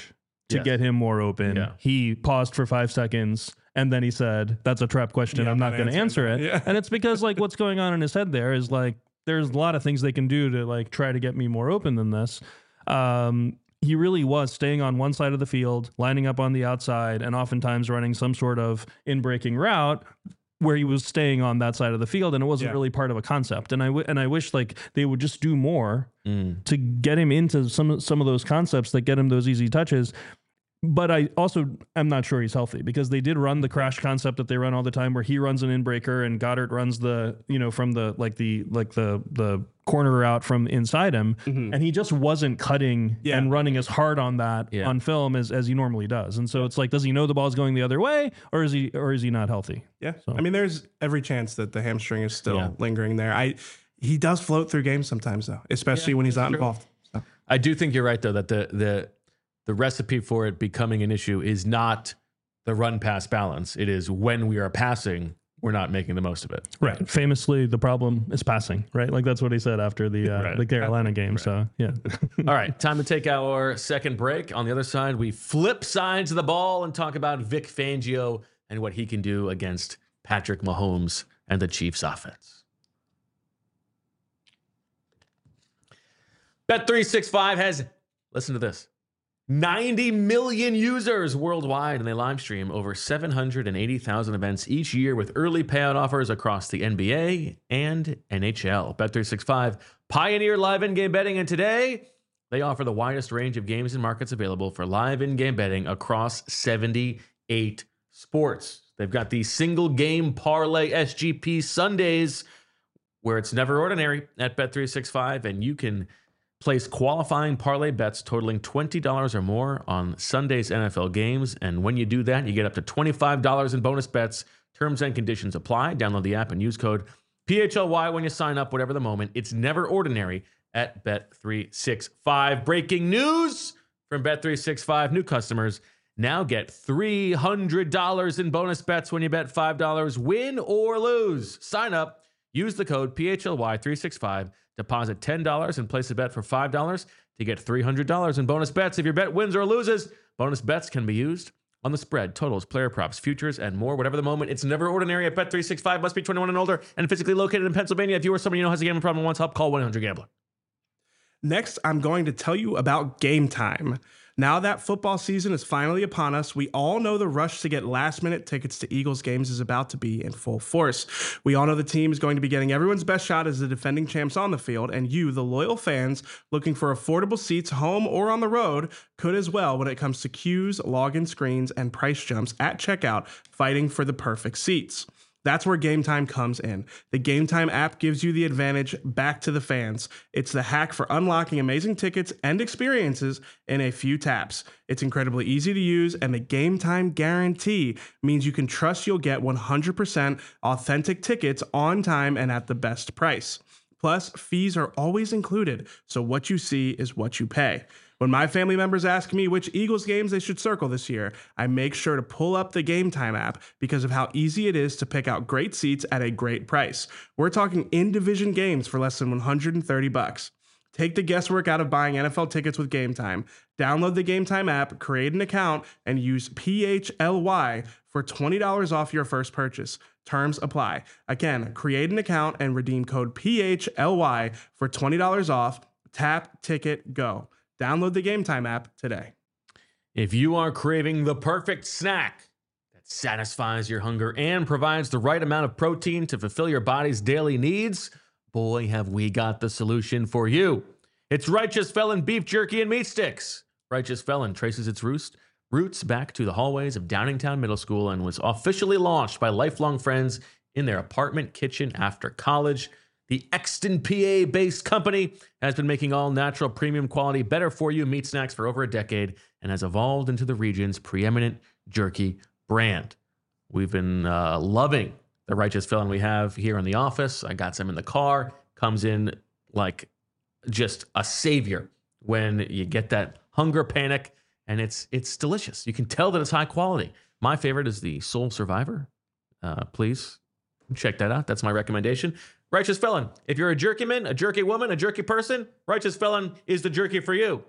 to Yes. get him more open. Yeah. He paused for 5 seconds and then he said, "That's a trap question. Yeah, I'm not going to answer it." Yeah. And it's because like what's going on in his head there is like there's a lot of things they can do to like try to get me more open than this. He really was staying on one side of the field, lining up on the outside, and oftentimes running some sort of in-breaking route where he was staying on that side of the field, and it wasn't really part of a concept. And I wish like they would just do more to get him into some of those concepts that get him those easy touches. But I'm not sure he's healthy because they did run the crash concept that they run all the time where he runs an in-breaker and Goddard runs the, from the corner route from inside him. Mm-hmm. And he just wasn't cutting and running as hard on that on film as he normally does. And so it's like, does he know the ball's going the other way or is he not healthy? Yeah. So. I mean, there's every chance that the hamstring is still lingering there. He does float through games sometimes though, especially when he's not involved. So. I do think you're right though, that the recipe for it becoming an issue is not the run pass balance. It is when we are passing, we're not making the most of it. Right. Famously, the problem is passing, right? Like that's what he said after the Carolina game. Right. So, yeah. All right. Time to take our second break. On the other side, we flip sides of the ball and talk about Vic Fangio and what he can do against Patrick Mahomes and the Chiefs offense. Bet365 has, listen to this, 90 million users worldwide, and they live stream over 780,000 events each year with early payout offers across the NBA and NHL. Bet365 pioneered live in-game betting, and today they offer the widest range of games and markets available for live in-game betting across 78 sports. They've got the single game parlay SGP Sundays where it's never ordinary at Bet365, and you can place qualifying parlay bets totaling $20 or more on Sunday's NFL games. And when you do that, you get up to $25 in bonus bets. Terms and conditions apply. Download the app and use code PHLY when you sign up, whatever the moment. It's never ordinary at Bet365. Breaking news from Bet365. New customers now get $300 in bonus bets when you bet $5. Win or lose. Sign up. Use the code PHLY365. Deposit $10 and place a bet for $5 to get $300 in bonus bets. If your bet wins or loses, bonus bets can be used on the spread, totals, player props, futures, and more. Whatever the moment, it's never ordinary at Bet365. Must be 21 and older and physically located in Pennsylvania. If you or someone you know has a gambling problem and wants help, call 1-800-GAMBLER. Next, I'm going to tell you about Game Time. Now that football season is finally upon us, we all know the rush to get last-minute tickets to Eagles games is about to be in full force. We all know the team is going to be getting everyone's best shot as the defending champs on the field, and you, the loyal fans, looking for affordable seats home or on the road, could as well when it comes to queues, login screens, and price jumps at checkout, fighting for the perfect seats. That's where Game Time comes in. The Game Time app gives you the advantage back to the fans. It's the hack for unlocking amazing tickets and experiences in a few taps. It's incredibly easy to use, and the Game Time guarantee means you can trust you'll get 100% authentic tickets on time and at the best price. Plus, fees are always included, so what you see is what you pay. When my family members ask me which Eagles games they should circle this year, I make sure to pull up the Game Time app because of how easy it is to pick out great seats at a great price. We're talking in-division games for less than $130. Take the guesswork out of buying NFL tickets with Game Time. Download the Game Time app, create an account, and use PHLY for $20 off your first purchase. Terms apply. Again, create an account and redeem code PHLY for $20 off. Tap, ticket, go. Download the Game Time app today. If you are craving the perfect snack that satisfies your hunger and provides the right amount of protein to fulfill your body's daily needs, boy, have we got the solution for you. It's Righteous Felon Beef Jerky and Meat Sticks. Righteous Felon traces its roots back to the hallways of Downingtown Middle School and was officially launched by lifelong friends in their apartment kitchen after college. The Exton, PA-based company has been making all-natural, premium quality, better-for-you meat snacks for over a decade and has evolved into the region's preeminent jerky brand. We've been loving the Righteous Felon we have here in the office. I got some in the car. Comes in like just a savior when you get that hunger panic, and it's delicious. You can tell that it's high quality. My favorite is the Soul Survivor. Please check that out. That's my recommendation. Righteous Felon. If you're a jerky man, a jerky woman, a jerky person, Righteous Felon is the jerky for you.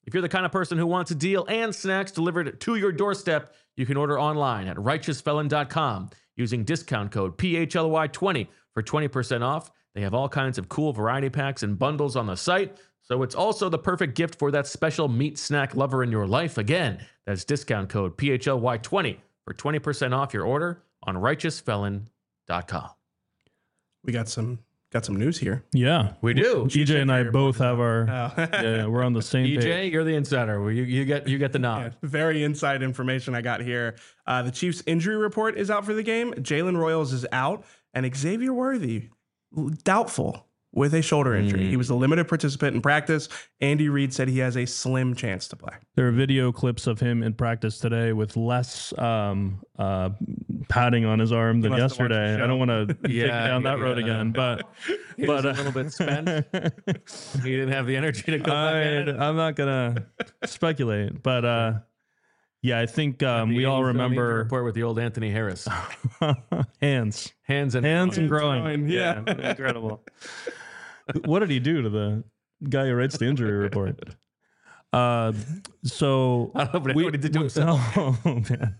If you're the kind of person who wants a deal and snacks delivered to your doorstep, you can order online at righteousfelon.com using discount code PHLY20 for 20% off. They have all kinds of cool variety packs and bundles on the site, so it's also the perfect gift for that special meat snack lover in your life. Again, that's discount code PHLY20 for 20% off your order on righteousfelon.com. We got some news here. Yeah, We do. EJ and I both have our. Oh. Yeah, we're on the same page. EJ, you're the insider. You get the nod. Very inside information I got here. The Chiefs' injury report is out for the game. Jalen Royals is out, and Xavier Worthy, doubtful with a shoulder injury. He was a limited participant in practice. Andy Reid said he has a slim chance to play. There are video clips of him in practice today with less padding on his arm than must have watched the yesterday. show. I don't want to take down that road yeah. again, but He was a little bit spent. He didn't have the energy to go back at it. I'm not gonna speculate, but yeah, I think we all remember report with the old Anthony Harris. hands Hands and and growing. growing, yeah. Incredible. What did he do to the guy who writes the injury report? So I don't know, but what he did to himself. Oh man.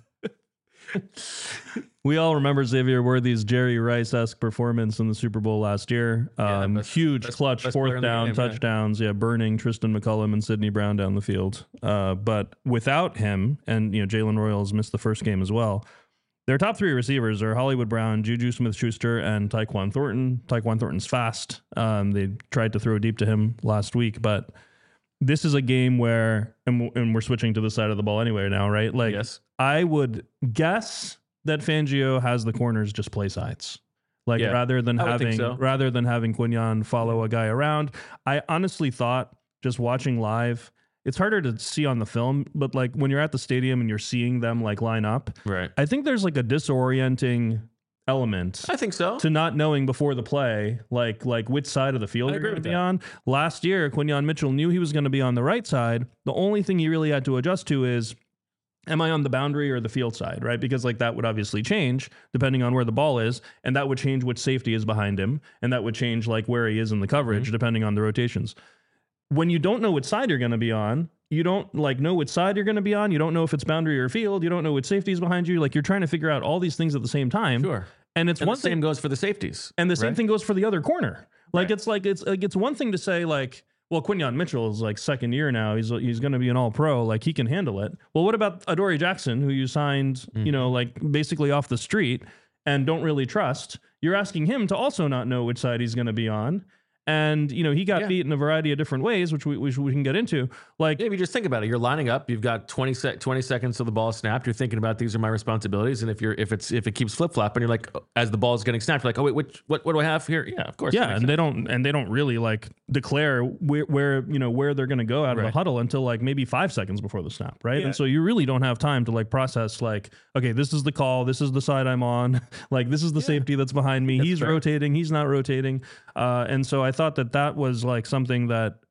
We all remember Xavier Worthy's Jerry Rice-esque performance in the Super Bowl last year. Huge clutch best player fourth in the down game, yeah. touchdowns, burning Tristan McCullum and Sidney Brown down the field. But without him, and Jalen Royals missed the first game as well. Their top three receivers are Hollywood Brown, Juju Smith-Schuster, and Tyquan Thornton. Tyquan Thornton's fast. They tried to throw deep to him last week, but this is a game where, and we're switching to the side of the ball anyway now, right? Like, Yes. I would guess that Fangio has the corners just play sides. Like, Yeah, rather than I would think having so. Quinyon follow a guy around. I honestly thought, just watching live, it's harder to see on the film, but like when you're at the stadium and you're seeing them like line up, Right. I think there's like a disorienting element I think so. to not knowing before the play, like which side of the field I you're agree going to with be that. on. Last year, Quinyon Mitchell knew he was going to be on the right side. The only thing he really had to adjust to is, am I on the boundary or the field side, right? Because like that would obviously change depending on where the ball is, and that would change which safety is behind him, and that would change like where he is in the coverage depending on the rotations. When you don't know which side you're going to be on, you don't like know which side you're going to be on. You don't know if it's boundary or field. You don't know which safety is behind you. Like you're trying to figure out all these things at the same time. Sure. And it's And one the thing. same goes for the safeties. And the same right? thing goes for the other corner. Like Right. it's one thing to say like, well, Quinyon Mitchell is like second year now. He's going to be an all pro. Like he can handle it. Well, what about Adoree Jackson, who you signed, like basically off the street and don't really trust? You're asking him to also not know which side he's going to be on. And, he got beat in a variety of different ways, which we can get into. Like, Yeah, if you just think about it, you're lining up. You've got 20 seconds till the ball is snapped. You're thinking about these are my responsibilities, and if it keeps flip flopping, you're like, as the ball is getting snapped, you're like, oh wait, what do I have here? Yeah, of course. yeah, and they don't really like declare where they're going to go out of the Right. huddle until like maybe 5 seconds before the snap, right? Yeah. And so you really don't have time to like process like, okay, this is the call, this is the side I'm on, like this is the safety that's behind me. He's fair. rotating, he's not rotating, and so I thought that was like something that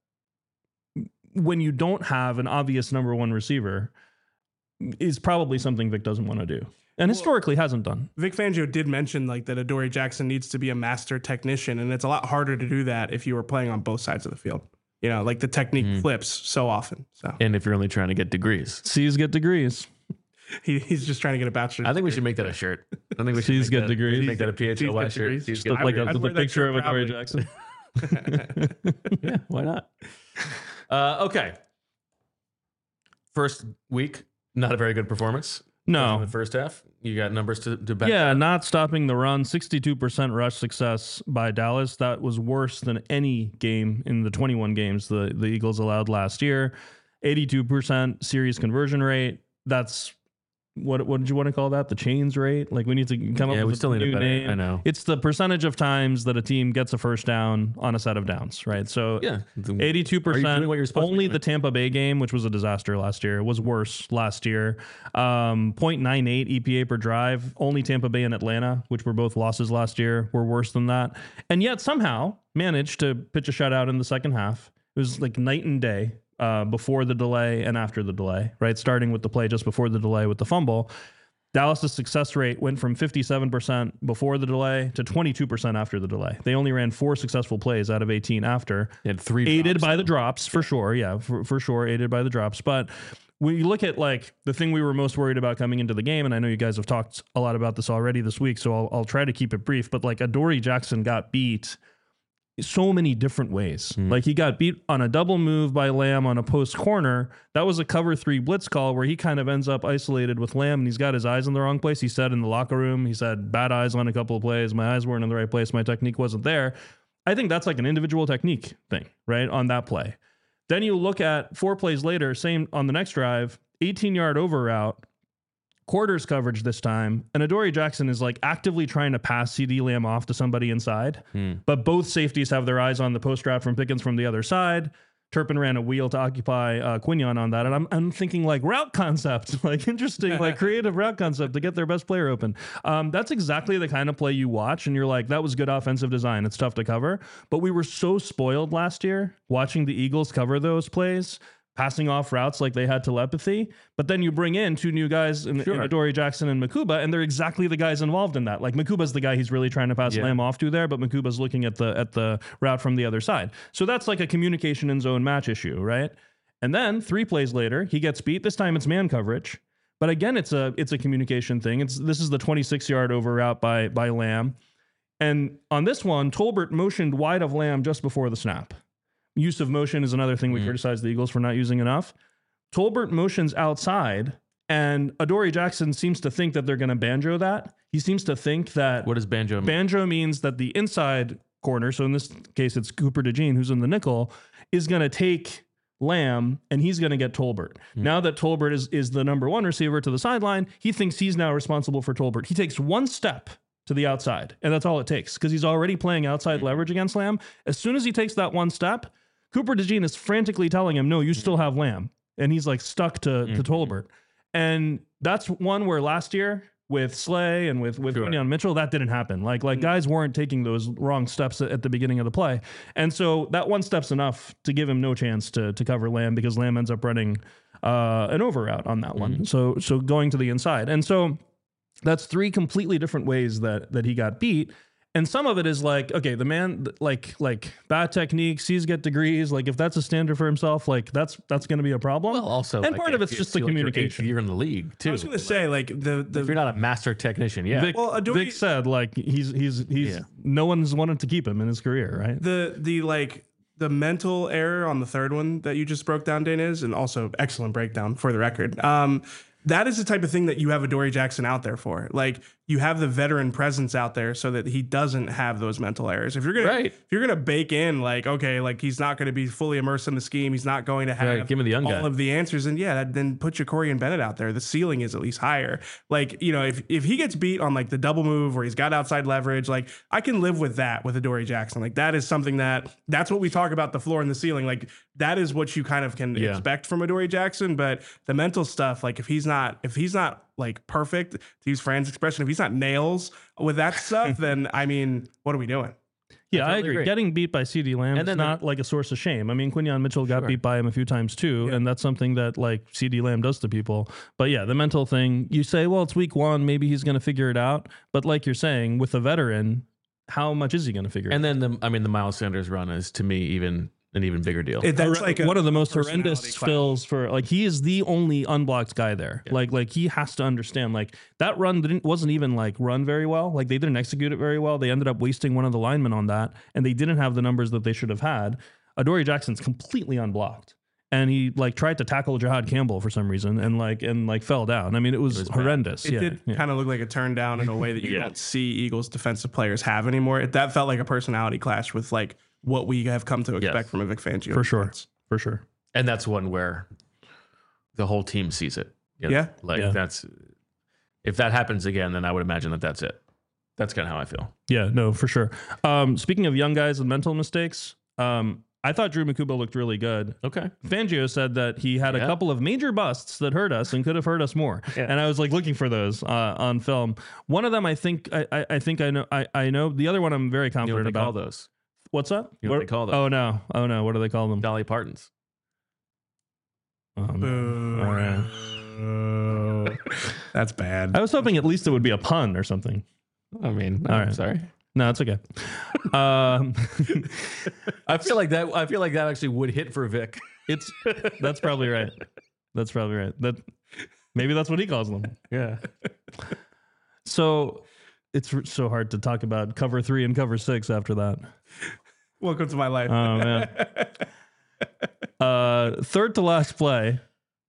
when you don't have an obvious number one receiver is probably something Vic doesn't want to do, and historically hasn't done. Vic Fangio did mention like that Adoree Jackson needs to be a master technician, and it's a lot harder to do that if you were playing on both sides of the field. Like the technique flips so often. So And if you're only trying to get degrees, C's get degrees. he's just trying to get a bachelor's. I think we should make that a shirt. I think we should C's make get that, degrees. Make that a C's PHLY get shirt. degrees. C's Just get Look like I'd a wear that picture shirt of Adoree proudly. Jackson. Yeah, why not? Okay. First week, not a very good performance. In No. the first half, you got numbers to back. Yeah, not stopping the run. 62% rush success by Dallas. That was worse than any game in the 21 games the Eagles allowed last year. 82% series conversion rate. That's what did you want to call that? The chains rate? Like we need to come up Yeah, we with still a need a new better- name. I know. It's the percentage of times that a team gets a first down on a set of downs, right? So Yeah. 82%. Are you doing what you're supposed to be Only doing? the Tampa Bay game, which was a disaster last year, was worse last year. 0.98 EPA per drive. Only Tampa Bay and Atlanta, which were both losses last year, were worse than that. And yet somehow managed to pitch a shutout in the second half. It was like night and day before the delay and after the delay, right? Starting with the play just before the delay with the fumble. Dallas's success rate went from 57% before the delay to 22% after the delay. They only ran 4 successful plays out of 18 after. They had 3 aided drops, by the drops, for sure. Yeah, for sure, aided by the drops. But when you look at like the thing we were most worried about coming into the game, and I know you guys have talked a lot about this already this week, so I'll try to keep it brief. But like Adoree Jackson got beat so many different ways. Like he got beat on a double move by Lamb on a post corner. That was a cover 3 blitz call where he kind of ends up isolated with Lamb, and he's got his eyes in the wrong place. He said in the locker room, he said, bad eyes on a couple of plays. My eyes weren't in the right place. My technique wasn't there. I think that's like an individual technique thing, right? On that play. Then you look at 4 plays later, same on the next drive, 18-yard over route, quarters coverage this time, and Adoree Jackson is like actively trying to pass CeeDee Lamb off to somebody inside, but both safeties have their eyes on the post route from Pickens from the other side. Turpin ran a wheel to occupy Quinion on that, and I'm thinking like route concept, like interesting, like creative route concept to get their best player open. That's exactly the kind of play you watch, and you're like, that was good offensive design. It's tough to cover, but we were so spoiled last year watching the Eagles cover those plays, passing off routes like they had telepathy. But then you bring in 2 new guys in Adoree Jackson and Makuba, and they're exactly the guys involved in that. Like Makuba's the guy he's really trying to pass Lamb off to there, but Makuba's looking at the route from the other side. So that's like a communication in zone match issue, right? And then 3 plays later, he gets beat. This time it's man coverage. But again, it's a communication thing. This is the 26-yard over route by Lamb. And on this one, Tolbert motioned wide of Lamb just before the snap. Use of motion is another thing we criticize the Eagles for not using enough. Tolbert motions outside, and Adoree Jackson seems to think that they're going to banjo that. He seems to think that... What does banjo mean? Banjo means that the inside corner, so in this case it's Cooper DeJean, who's in the nickel, is going to take Lamb, and he's going to get Tolbert. Now that Tolbert is the number 1 receiver to the sideline, he thinks he's now responsible for Tolbert. He takes 1 step to the outside, and that's all it takes, because he's already playing outside leverage against Lamb. As soon as he takes that 1 step, Cooper DeJean is frantically telling him, no, you still have Lamb. And he's like stuck to Tolbert. And that's one where last year with Slay and with Quinion Mitchell, that didn't happen. Like guys weren't taking those wrong steps at the beginning of the play. And so that 1 step's enough to give him no chance to cover Lamb, because Lamb ends up running an over route on that one. So going to the inside. And so that's 3 completely different ways that he got beat. And some of it is like, okay, the man, like bad technique, C's get degrees. Like if that's a standard for himself, like that's going to be a problem. Well, also, and like, part of it's just the communication. You're in the league too. I was going to say, like the if you're not a master technician, Vic said like he's no one's wanted to keep him in his career, right? The mental error on the 3rd one that you just broke down, Dane, is, and also excellent breakdown for the record. That is the type of thing that you have Adoree Jackson out there for. Like you have the veteran presence out there so that he doesn't have those mental errors. If you're gonna bake in like, okay, like he's not going to be fully immersed in the scheme, he's not going to have give me the young all guy. of the answers, and then put your Corian Bennett out there. The ceiling is at least higher. Like, you know, if he gets beat on like the double move where he's got outside leverage, like I can live with that with Adoree Jackson. Like that is something that's what we talk about, the floor and the ceiling. Like that is what you kind of can expect from Adoree Jackson. But the mental stuff, like if he's not like perfect, to use Fran's expression, if he's not nails with that stuff, then I mean, what are we doing? Yeah, I agree. Getting beat by CeeDee Lamb is not like a source of shame. I mean, Quinion Mitchell got beat by him a few times too, and that's something that like CeeDee Lamb does to people. But yeah, the mental thing, you say, well, it's week 1, maybe he's going to figure it out. But like you're saying, with a veteran, how much is he going to figure it out? And then, the Miles Sanders run is to me an even bigger deal. That's like one of the most horrendous fills for like he is the only unblocked guy there. Yeah. Like he has to understand like that run wasn't even like run very well. Like they didn't execute it very well. They ended up wasting one of the linemen on that, and they didn't have the numbers that they should have had. Adoree Jackson's completely unblocked, and he like tried to tackle Jahad Campbell for some reason and fell down. I mean, it was horrendous. It did kind of look like a turn down in a way that you don't see Eagles defensive players have anymore. That felt like a personality clash with like what we have come to expect from a Vic Fangio. For sure. And that's one where the whole team sees it. That's, if that happens again, then I would imagine that's it. That's kind of how I feel. Yeah, no, for sure. Speaking of young guys and mental mistakes, I thought Drew Makuba looked really good. Okay. Fangio said that he had a couple of major busts that hurt us and could have hurt us more. Yeah. And I was like looking for those on film. One of them, I think I know. The other one I'm very confident about. Call those. What's up? You know what they call them? Oh no. What do they call them? Dolly Partons. Oh, no. All right. That's bad. I was hoping at least it would be a pun or something. I mean, All I'm right. sorry. No, it's okay. I feel like that actually would hit for Vic. That's probably right. That's probably right. Maybe that's what he calls them. Yeah. So it's so hard to talk about cover 3 and cover 6 after that. Welcome to my life. Oh man. Third to last play.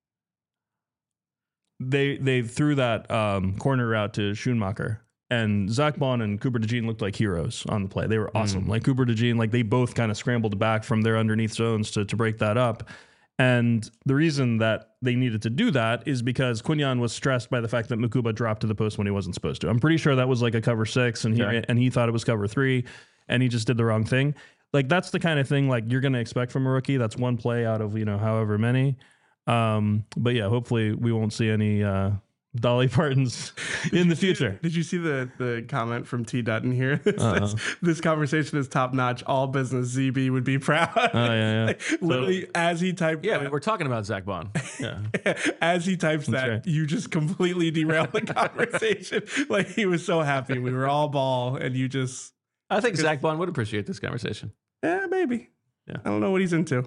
They threw that corner route to Schoonmaker, and Zach Bond and Cooper DeJean looked like heroes on the play. They were awesome. Like Cooper DeJean, like they both kind of scrambled back from their underneath zones to break that up. And the reason that they needed to do that is because Quignon was stressed by the fact that Makuba dropped to the post when he wasn't supposed to. I'm pretty sure that was like a cover 6, and he thought it was cover 3, and he just did the wrong thing. Like that's the kind of thing like you're going to expect from a rookie. That's one play out of however many. But yeah, hopefully we won't see any Dolly Partons in the future. Did you see the comment from T. Dutton here? This conversation is top notch. All business. ZB would be proud. Oh yeah. Like, literally, as he typed, Yeah, we're talking about Zach Bond. Yeah. as he types that, right. you just completely derailed the conversation. Like he was so happy. We were all ball, and you just, I think Zach Bond would appreciate this conversation. yeah, maybe. Yeah. I don't know what he's into.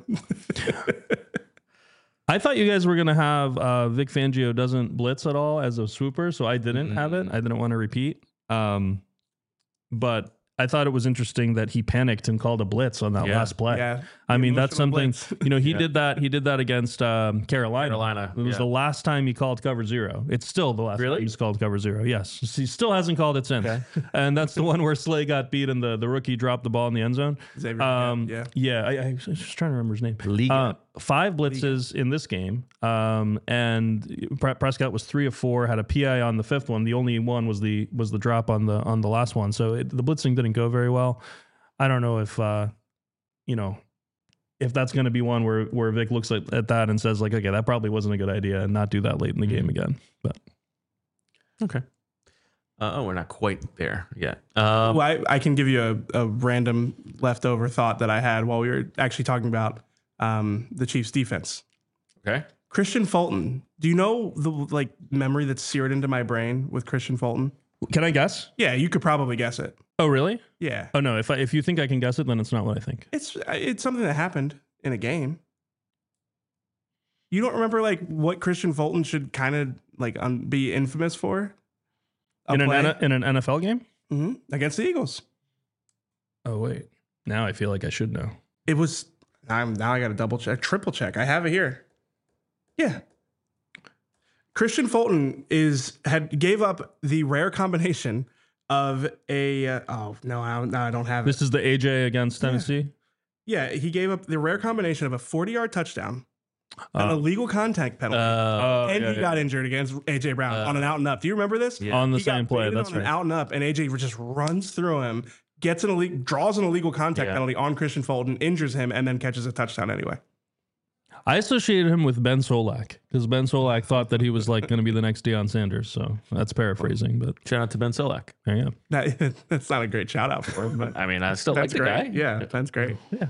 I thought you guys were going to have Vic Fangio doesn't blitz at all as a swooper, so I didn't have it. I didn't want to repeat. But I thought it was interesting that he panicked and called a blitz on that last play. Yeah. I mean, that's Emotional something, blitz. he did that. He did that against Carolina. It was yeah. the last time he called cover 0. It's still the last Really? time he's called cover 0. Yes. He still hasn't called it since. Okay. And that's the one where Slay got beat and the rookie dropped the ball in the end zone. Xavier, I was just trying to remember his name. Liga. 5 blitzes in this game, and Prescott was 3 of 4. Had a PI on the 5th one. The only one was the drop on the last one. So the blitzing didn't go very well. I don't know if if that's going to be one where Vic looks at that and says like, okay, that probably wasn't a good idea, and not do that late in the game again. But Okay. We're not quite there yet. Well, I can give you a random leftover thought that I had while we were actually talking about the Chiefs defense. Okay. Christian Fulton. Do you know the memory that's seared into my brain with Christian Fulton? can I guess? Yeah, you could probably guess it. Oh, really? Yeah, Oh no. If you think I can guess it, then it's not what I think. it's something that happened in a game. You don't remember what Christian Fulton should kind of be infamous for? In an NFL game? Against the Eagles. Oh wait. Now I feel like I should know. It was. Now I got to double check, triple check. I have it here. Yeah. Christian Fulton gave up the rare combination of a. I don't have it. This is the AJ against Tennessee. Yeah, he gave up the rare combination of a 40-yard touchdown, an illegal contact penalty, and he got injured against AJ Brown on an out and up. Do you remember this? Yeah. On the He got same play. baited That's on an right. out and up, and AJ just runs through him, draws an illegal contact Yeah. penalty on Christian Fulton, injures him, and then catches a touchdown anyway. I associated him with Ben Solak because Ben Solak thought that he was going to be the next Deion Sanders. So that's paraphrasing, but Shout out to Ben Solak. there you go. That's not a great shout out for him, but I mean, I still like that's the great. guy. Yeah, that's great. Yeah.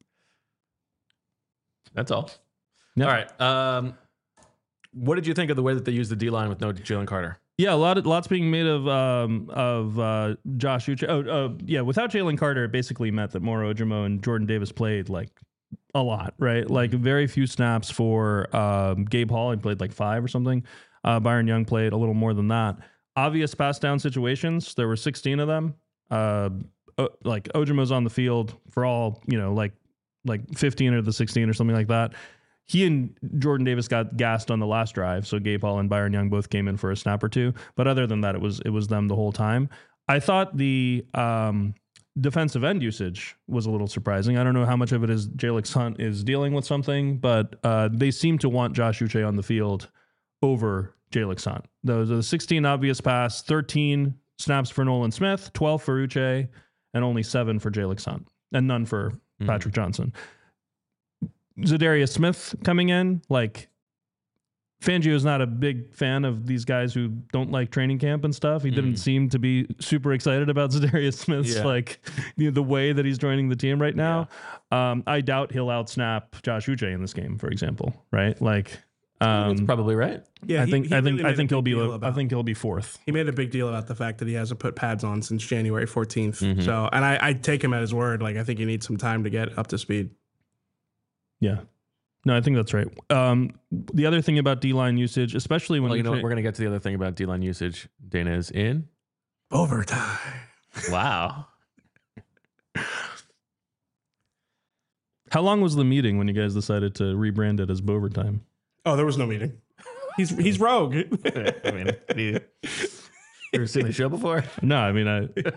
That's all. Yep. All right. What did you think of the way that they used the D line with no Jalen Carter? Yeah, lots being made of Josh Uche. Without Jalen Carter, it basically meant that Moro Ojomo and Jordan Davis played a lot, right? Very few snaps for Gabe Hall. He played 5 or something. Byron Young played a little more than that. Obvious pass down situations. There were 16 of them. Ojomo's on the field for all 15 of the 16 or something like that. He and Jordan Davis got gassed on the last drive, so Gabe Hall and Byron Young both came in for a snap or two. But other than that, it was them the whole time. I thought the defensive end usage was a little surprising. I don't know how much of it is Jalix Hunt is dealing with something, but they seem to want Josh Uche on the field over Jalix Hunt. Those are the 16 obvious pass, 13 snaps for Nolan Smith, 12 for Uche, and only 7 for Jalix Hunt, and none for Patrick Johnson. Zadarius Smith coming in, Fangio is not a big fan of these guys who don't like training camp and stuff. He didn't seem to be super excited about Zadarius Smith's the way that he's joining the team right now. I doubt he'll outsnap Josh Uche in this game, for example, right? That's probably right. Yeah, I think he'll be. I think think he'll be fourth. he made a big deal about the fact that he hasn't put pads on since January 14th. So, and I take him at his word. Like, I think he needs some time to get up to speed. Yeah. No, I think that's right. The other thing about D-line usage, especially when Well, you know, we're going to get to the other thing about D-line usage. Dana is in Overtime. Wow. How long was the meeting when you guys decided to rebrand it as Bovertime? Oh, there was no meeting. He's rogue. I mean, you ever seen the show before? No, I mean,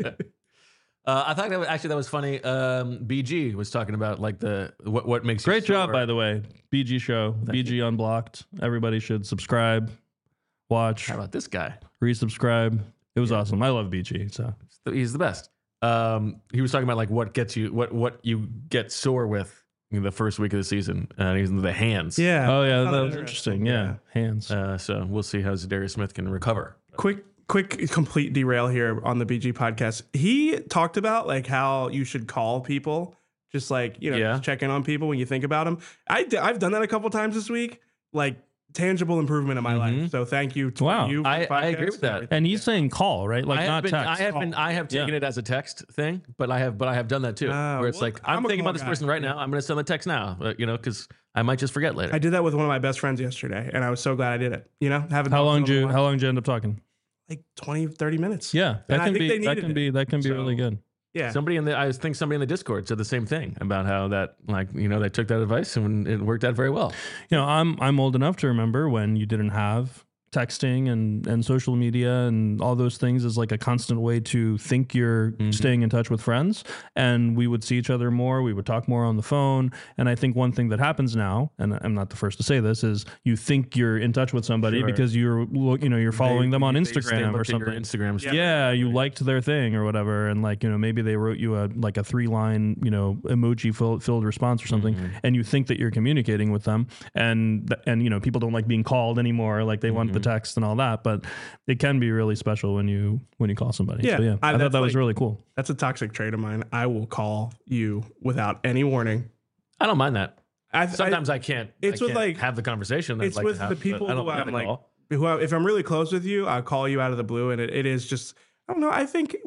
I thought that was funny. BG was talking about like what makes great you job, sore. by the way. BG show, BG Unblocked. Everybody should subscribe, watch, How about this guy? resubscribe. It was awesome. I love BG. So He's the best. He was talking about like what gets you what you get sore with in the first week of the season. He's the hands. Yeah. oh yeah, I that found was interesting. Yeah, hands. So we'll see how Zadarius Smith can recover. Quick complete derail here on the BG podcast. He talked about like how you should call people, just like, you know, Yeah. just check in on people when you think about them. I've done that a couple times this week, like tangible improvement in my life. So thank you to Wow. you. for the I agree podcast with that. And he's saying call, right? Like not text. I have taken it as a text thing, but I have done that too. Where it's well, like I'm I'm a thinking call about this guy. person right now. I'm going to send the text now, you know, because I might just forget later. I did that with one of my best friends yesterday, and I was so glad I did it. You know, having How long did you end up talking? like 20, 30 minutes. Yeah, And that I can think be they that needed can it. be that can be So- really good. Yeah. Somebody in the Discord said the same thing about how that, like, you know, they took that advice and it worked out very well. You know, I'm old enough to remember when you didn't have texting and social media and all those things as like a constant way to think you're staying in touch with friends. And we would see each other more. We would talk more on the phone. And I think one thing that happens now, and I'm not the first to say this, is you think you're in touch with somebody Sure. because you're following them on They Instagram or looked at your something. Instagram stuff. Yeah, you liked their thing or whatever, and like, you know, maybe they wrote you a 3-line, you know, emoji filled response or something, and you think that you're communicating with them, and you know, people don't like being called anymore, like they want the text and all that, but it can be really special when you call somebody. Yeah, So, I thought that's that was like- really cool. That's a toxic trait of mine. I will call you without any warning. I don't mind that. I Sometimes I can't. it's I with, can't like- have the conversation. That it's I'd like with to have, the but people I don't who mind I'm the like, call. if I'm really close with you, I'll call you out of the blue, and it is just, I don't know. I think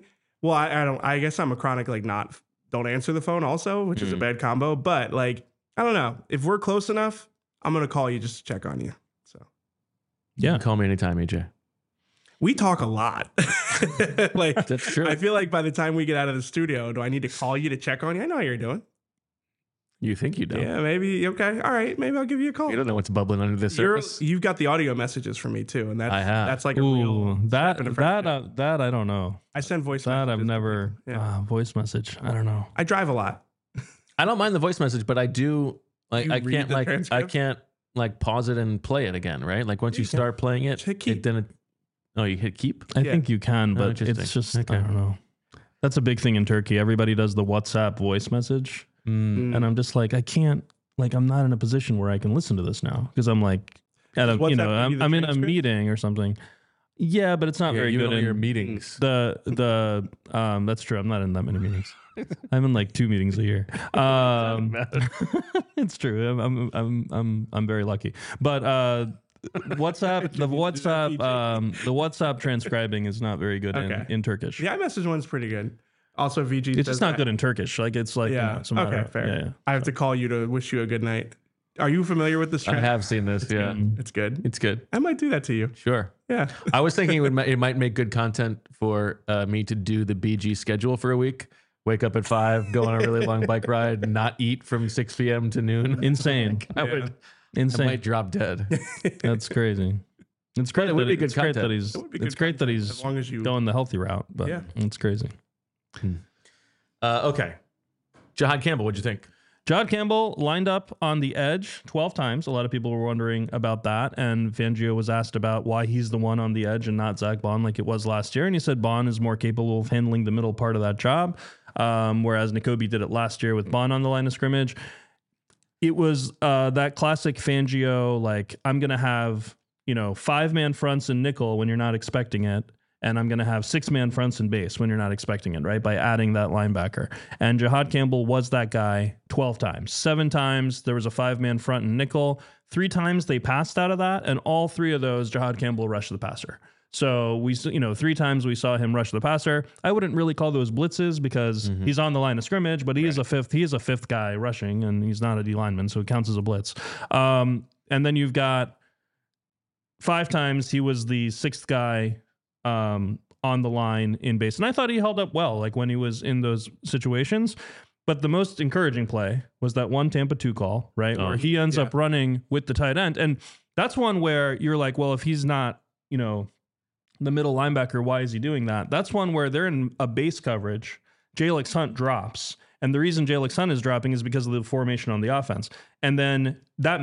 I guess I'm a chronic like don't answer the phone also, which is a bad combo. But like, I don't know, if we're close enough, I'm gonna call you just to check on you. So You Yeah. can call me anytime, EJ. we talk a lot. Like That's true. I feel like by the time we get out of the studio, do I need to call you to check on you? I know how you're doing. You think you don't? Yeah, maybe. Okay, all right. Maybe I'll give you a call. You don't know what's bubbling under the surface. You've got the audio messages from me too, and I have. that's like a Ooh, real that step in a friendship. that I don't know. I send voice. That I've messages. never Yeah. voice message. I don't know. I drive a lot. I don't mind the voice message, but I do like You I read can't the like I transcript? can't like pause it and play it again, right? Like once you You can. start playing it, Hit keep. you hit keep. I Yeah. think you can, but interesting. it's just Okay. I don't know. That's a big thing in Turkey. Everybody does the WhatsApp voice message, Mm. and I'm just like, I can't. Like, I'm not in a position where I can listen to this now because I'm like, at a, Does you WhatsApp know, give you the I'm in a transcript? meeting or something. Yeah, but it's not Yeah, very you good know your in meetings. the that's true. I'm not in that many meetings. I'm in like 2 meetings a year. It's true. I'm very lucky. But WhatsApp the WhatsApp transcribing is not very good Okay. in Turkish. The iMessage one's pretty good. Also, VG. It's says just not that- good in Turkish. Like it's like Yeah. it's a matter Okay. of- Fair. yeah. I have to call you to wish you a good night. Are you familiar with this I trend? have seen this. Yeah, It's good. it's good. I might do that to you. Sure. Yeah. I was thinking it might make good content for me to do the BG schedule for a week. Wake up at 5, go on a really long bike ride, not eat from 6 p.m. to noon. Insane. I would. I Insane. might drop dead. That's crazy. It's great. it would that be good it's great that content. he's. It would be It's good great that content, he's as long as you. going the healthy route, but Yeah. it's crazy. Okay. Jahad Campbell, what'd you think? Jahad Campbell lined up on the edge 12 times. A lot of people were wondering about that. And Fangio was asked about why he's the one on the edge and not Zach Bond like it was last year. And he said Bond is more capable of handling the middle part of that job, whereas Nakobe did it last year with Bond on the line of scrimmage. It was that classic Fangio, like, I'm going to have, 5-man fronts and nickel when you're not expecting it. and I'm going to have 6-man fronts and base when you're not expecting it, right? By adding that linebacker. And Jahad Campbell was that guy 12 times. 7 times there was a 5-man front and nickel. 3 times they passed out of that, and all 3 of those Jahad Campbell rushed the passer. So we, 3 times we saw him rush the passer. I wouldn't really call those blitzes because he's on the line of scrimmage, but he is a fifth guy rushing, and he's not a D lineman, so it counts as a blitz. And then you've got 5 times he was the 6th guy on the line in base, and I thought he held up well, like when he was in those situations. But the most encouraging play was that one Tampa 2 call, right, where he ends up running with the tight end, and that's one where you're like, well, if he's not, the middle linebacker, why is he doing that? That's one where they're in a base coverage. Jalix Hunt drops. And the reason Jalix Hunt is dropping is because of the formation on the offense. And then that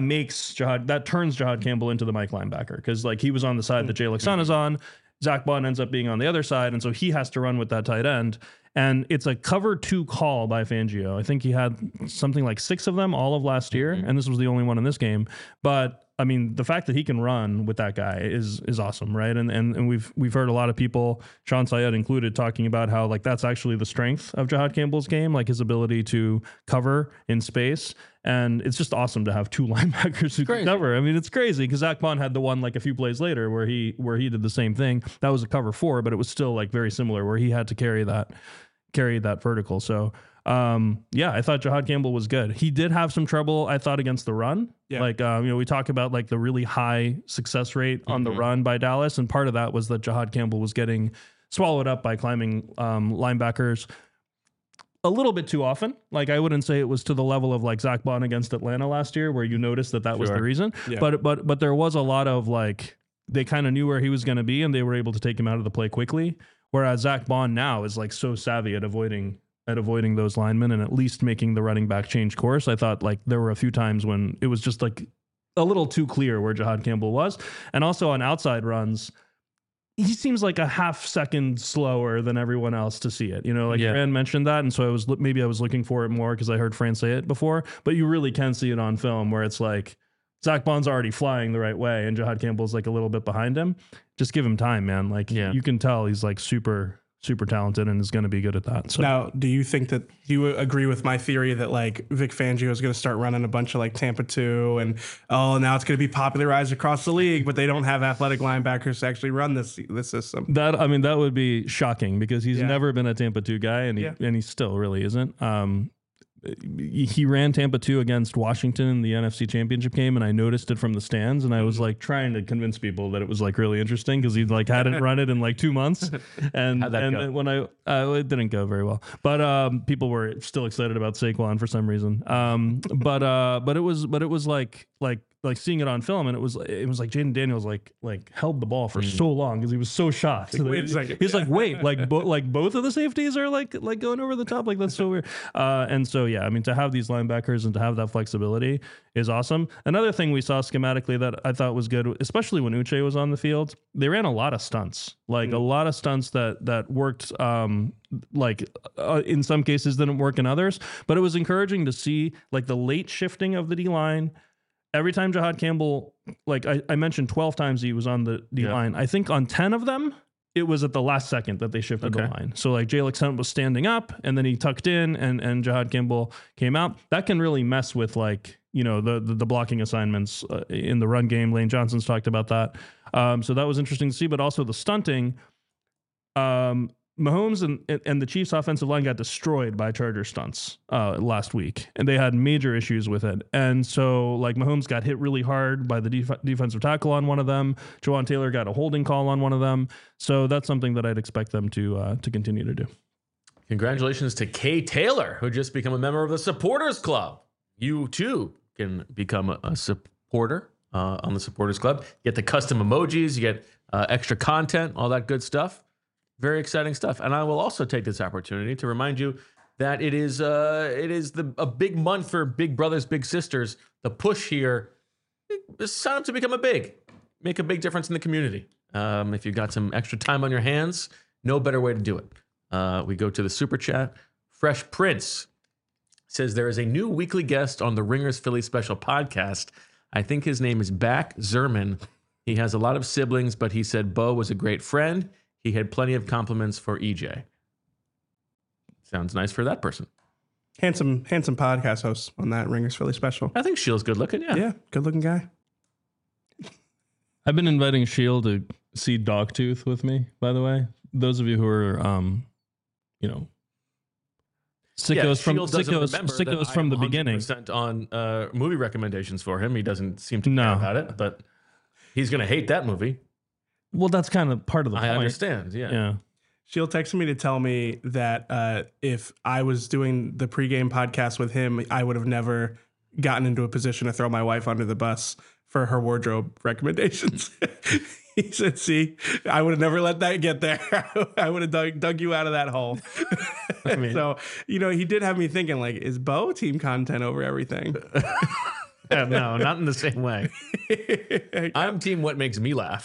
turns Jahad Campbell into the Mike linebacker, because like he was on the side that Jalix Hunt is on. Zach Bond ends up being on the other side. And so he has to run with that tight end. And it's a cover 2 call by Fangio. I think he had something like 6 of them all of last year. And this was the only one in this game. But I mean, the fact that he can run with that guy is awesome, right? And we've heard a lot of people, Sean Syed included, talking about how like that's actually the strength of Jahad Campbell's game, like his ability to cover in space. And it's just awesome to have 2 linebackers who can cover. I mean, it's crazy because Zach Bond had the one like a few plays later where he did the same thing. That was a cover 4, but it was still like very similar where he had to carry that vertical. So I thought Jahad Campbell was good. He did have some trouble, I thought, against the run. Yeah. Like, we talk about like the really high success rate on the run by Dallas. And part of that was that Jahad Campbell was getting swallowed up by climbing linebackers a little bit too often. Like, I wouldn't say it was to the level of like Zach Bond against Atlanta last year, where you noticed that was the reason. Yeah. But there was a lot of like, they kind of knew where he was going to be and they were able to take him out of the play quickly. Whereas Zach Bond now is like so savvy at avoiding those linemen and at least making the running back change course. I thought like there were a few times when it was just like a little too clear where Jahad Campbell was. And also on outside runs, he seems like a half second slower than everyone else to see it. Fran mentioned that. And so I was looking for it more because I heard Fran say it before, but you really can see it on film where it's like Zach Bond's already flying the right way and Jahad Campbell's like a little bit behind him. Just give him time, man. Like you can tell he's like super talented and is going to be good at that. So now, do you agree with my theory that like Vic Fangio is going to start running a bunch of like Tampa 2 and now it's going to be popularized across the league, but they don't have athletic linebackers to actually run this system? That would be shocking because he's never been a Tampa 2 guy and he still really isn't. He ran Tampa 2 against Washington in the NFC Championship game, and I noticed it from the stands, and I was like trying to convince people that it was like really interesting because he like hadn't run it in like 2 months, and when it didn't go very well, but people were still excited about Saquon for some reason, but it was like seeing it on film, and it was like Jaden Daniels like held the ball for so long because he was so shocked. Wait a second. He's like, wait, both of the safeties are like going over the top, like that's so weird. And so I mean, to have these linebackers and to have that flexibility is awesome. Another thing we saw schematically that I thought was good, especially when Uche was on the field, they ran a lot of stunts, a lot of stunts that worked. In some cases didn't work in others, but it was encouraging to see like the late shifting of the D line. Every time Jahad Campbell, like I mentioned 12 times he was on the D line. I think on 10 of them, it was at the last second that they shifted the line. So like Jalix Hunt was standing up and then he tucked in and Jahad Campbell came out. That can really mess with like, the blocking assignments in the run game. Lane Johnson's talked about that. So that was interesting to see, but also the stunting. Mahomes and the Chiefs offensive line got destroyed by Charger stunts last week, and they had major issues with it. And so like Mahomes got hit really hard by the defensive tackle on one of them. Jawan Taylor got a holding call on one of them. So that's something that I'd expect them to continue to do. Congratulations to Kay Taylor, who just became a member of the Supporters Club. You too can become a supporter on the Supporters Club. You get the custom emojis, you get extra content, all that good stuff. Very exciting stuff. And I will also take this opportunity to remind you that it is a big month for big brothers, big sisters. The push here is sign up to become make a big difference in the community. If you've got some extra time on your hands, no better way to do it. We go to the super chat. Fresh Prince says there is a new weekly guest on the Ringers Philly Special podcast. I think his name is Back Zerman. He has a lot of siblings, but he said Bo was a great friend. he had plenty of compliments for EJ. Sounds nice for that person. Handsome podcast host on that. Ringer's Philly special. I think Shield's good looking. Yeah. Yeah, good looking guy. I've been inviting Shield to see Dogtooth with me, by the way. Those of you who are, sickos from the beginning. On movie recommendations for him. He doesn't seem to care about it, but he's going to hate that movie. Well, that's kind of part of the point. I understand. Yeah. She'll text me to tell me that if I was doing the pregame podcast with him, I would have never gotten into a position to throw my wife under the bus for her wardrobe recommendations. He said, see, I would have never let that get there. I would have dug you out of that hole. I mean, so, he did have me thinking, like, is Bo team content over everything? No, not in the same way. I'm team what makes me laugh.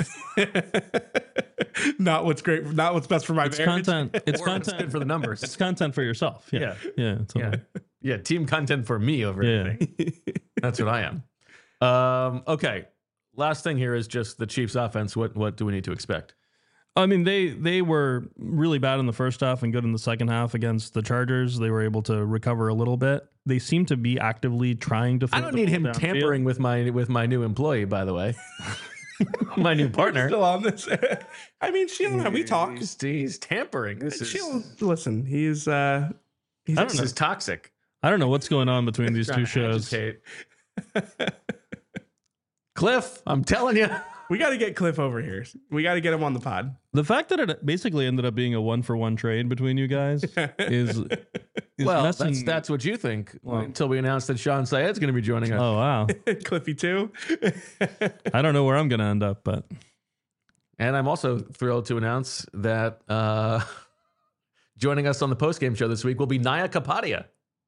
Not what's great, not what's best for my marriage. Content. It's content good for the numbers. It's content for yourself. Yeah. Yeah. Team content for me over anything. That's what I am. Okay. Last thing here is just the Chiefs offense. What do we need to expect? I mean, they were really bad in the first half and good in the second half against the Chargers. They were able to recover a little bit. They seem to be actively trying to. I don't need him tampering with my new employee, by the way. My new partner. Still on this. I mean, Sheila, we talk. He's tampering. Listen, he's this is toxic. I don't know what's going on between these two shows. Cliff, I'm telling you. We got to get Cliff over here. We got to get him on the pod. The fact that it basically ended up being a 1-for-1 trade between you guys is well, messing. that's what you think until we announce that Sean Syed's going to be joining us. Oh, wow. Cliffy too. I don't know where I'm going to end up, but. And I'm also thrilled to announce that joining us on the postgame show this week will be Naya Kapadia.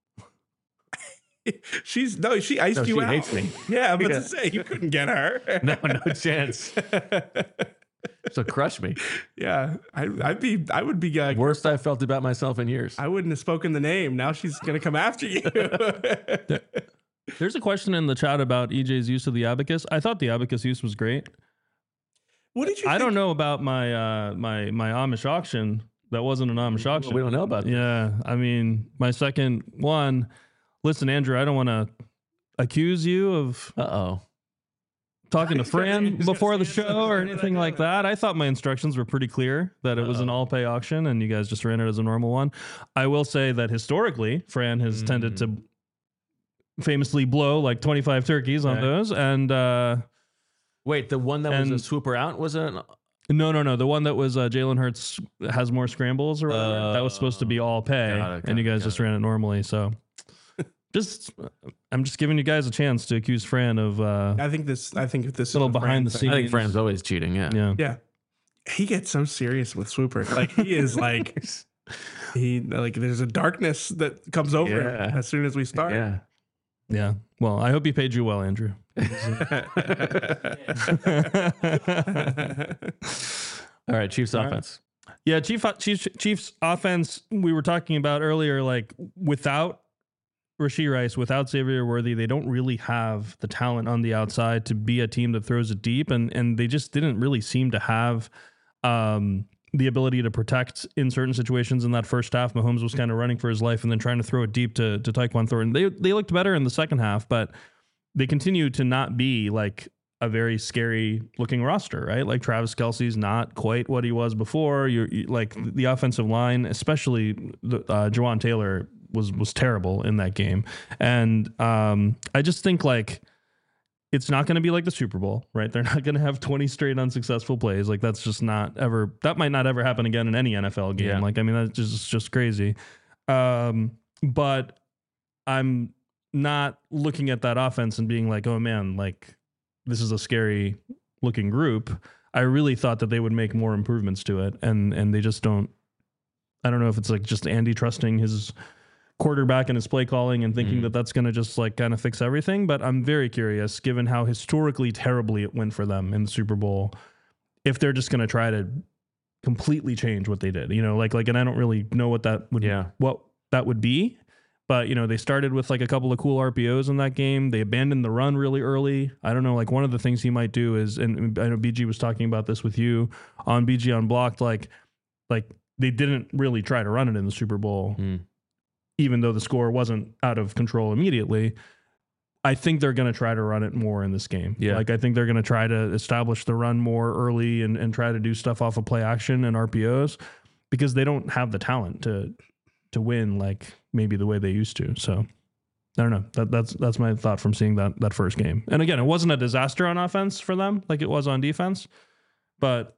She iced you out. She hates me. Yeah, I'm about to say you couldn't get her. No chance. She'll crush me. Yeah, I would be worst I've felt about myself in years. I wouldn't have spoken the name. Now she's gonna come after you. There's a question in the chat about EJ's use of the abacus. I thought the abacus use was great. What did you? I don't know about my my Amish auction. That wasn't an Amish auction. We don't know about that. Yeah, I mean, my second one. Listen, Andrew, I don't want to accuse you of talking to Fran before the show or anything like that. I thought my instructions were pretty clear that it was an all-pay auction and you guys just ran it as a normal one. I will say that historically, Fran has tended to famously blow like 25 turkeys on those. And wait, the one that was a swooper out was a... No. The one that was Jalen Hurts has more scrambles or whatever. That was supposed to be all pay, and you guys just ran it normally. So... I'm just giving you guys a chance to accuse Fran of. I think this little behind the scenes. I think Fran's always cheating. Yeah. He gets so serious with Swooper. Like he is like there's a darkness that comes over him as soon as we start. Yeah. Well, I hope he paid you well, Andrew. All right, Chiefs offense. Yeah, Chiefs offense. We were talking about earlier, like without Rashee Rice, without Xavier Worthy, they don't really have the talent on the outside to be a team that throws it deep, and they just didn't really seem to have the ability to protect in certain situations. In that first half, Mahomes was kind of running for his life and then trying to throw it deep to Tyquan Thornton. They looked better in the second half, but they continue to not be like a very scary looking roster, right? Like Travis Kelce's not quite what he was before. You like the offensive line, especially Jawan Taylor was terrible in that game. And I just think like it's not going to be like the Super Bowl, right? They're not going to have 20 straight unsuccessful plays. Like that's just that might not ever happen again in any NFL game. Yeah. Like, I mean, that's just crazy. But I'm not looking at that offense and being like, oh man, like this is a scary looking group. I really thought that they would make more improvements to it. And they just don't. I don't know if it's like just Andy trusting his quarterback and his play calling and thinking that that's going to just like kind of fix everything. But I'm very curious, given how historically terribly it went for them in the Super Bowl, if they're just going to try to completely change what they did, like, and I don't really know what that would, what that would be. But, they started with like a couple of cool RPOs in that game. They abandoned the run really early. I don't know, like one of the things he might do is, and I know BG was talking about this with you on BG Unblocked, like they didn't really try to run it in the Super Bowl, even though the score wasn't out of control immediately. I think they're going to try to run it more in this game. Yeah. Like I think they're going to try to establish the run more early and try to do stuff off of play action and RPOs because they don't have the talent to win like maybe the way they used to. So I don't know. That's my thought from seeing that first game. And again, it wasn't a disaster on offense for them like it was on defense, but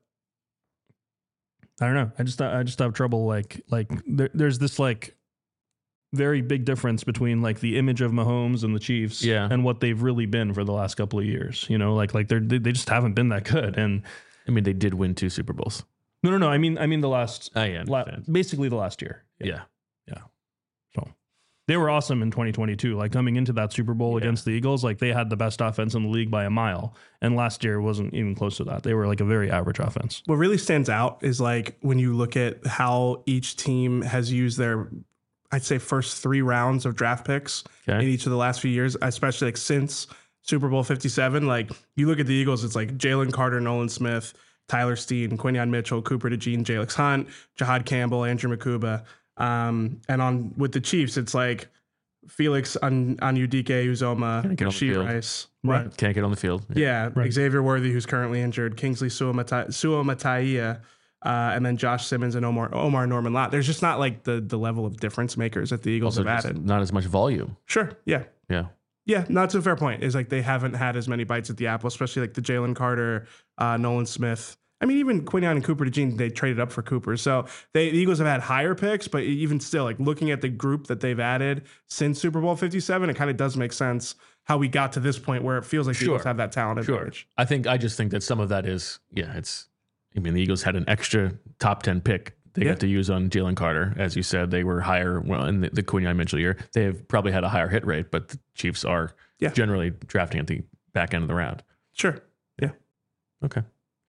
I don't know. I just have trouble like there's this like very big difference between like the image of Mahomes and the Chiefs and what they've really been for the last couple of years. Like they just haven't been that good. And I mean, they did win 2 Super Bowls. No. I mean the last, basically the last year. Yeah. So they were awesome in 2022. Like coming into that Super Bowl against the Eagles, like they had the best offense in the league by a mile. And last year wasn't even close to that. They were like a very average offense. What really stands out is like when you look at how each team has used their, I'd say, first 3 rounds of draft picks in each of the last few years, especially like since Super Bowl 57. Like you look at the Eagles, it's like Jalen Carter, Nolan Smith, Tyler Steen, Quinyon Mitchell, Cooper DeJean, Jalex Hunt, Jahad Campbell, Andrew Makuba. And with the Chiefs, it's like Felix Onudike Uzoma, Rashee Rice. Right. Can't get on the field. Xavier Worthy, who's currently injured, Kingsley Suamataia, and then Josh Simmons and Omar Norman Lott. There's just not like the level of difference makers that the Eagles have added. Not as much volume. Sure. Yeah. Yeah. Yeah, that's a fair point. Is like they haven't had as many bites at the apple, especially like the Jalen Carter, Nolan Smith. I mean, even Quinyon and Cooper DeJean, they traded up for Cooper. So the Eagles have had higher picks, but even still, like looking at the group that they've added since Super Bowl 57, it kind of does make sense how we got to this point where it feels like the Eagles have that talent advantage. I just think that some of that is, the Eagles had an extra top 10 pick they got to use on Jalen Carter. As you said, they were higher in the Quinyon Mitchell year. They have probably had a higher hit rate, but the Chiefs are generally drafting at the back end of the round. Sure. Yeah. Okay.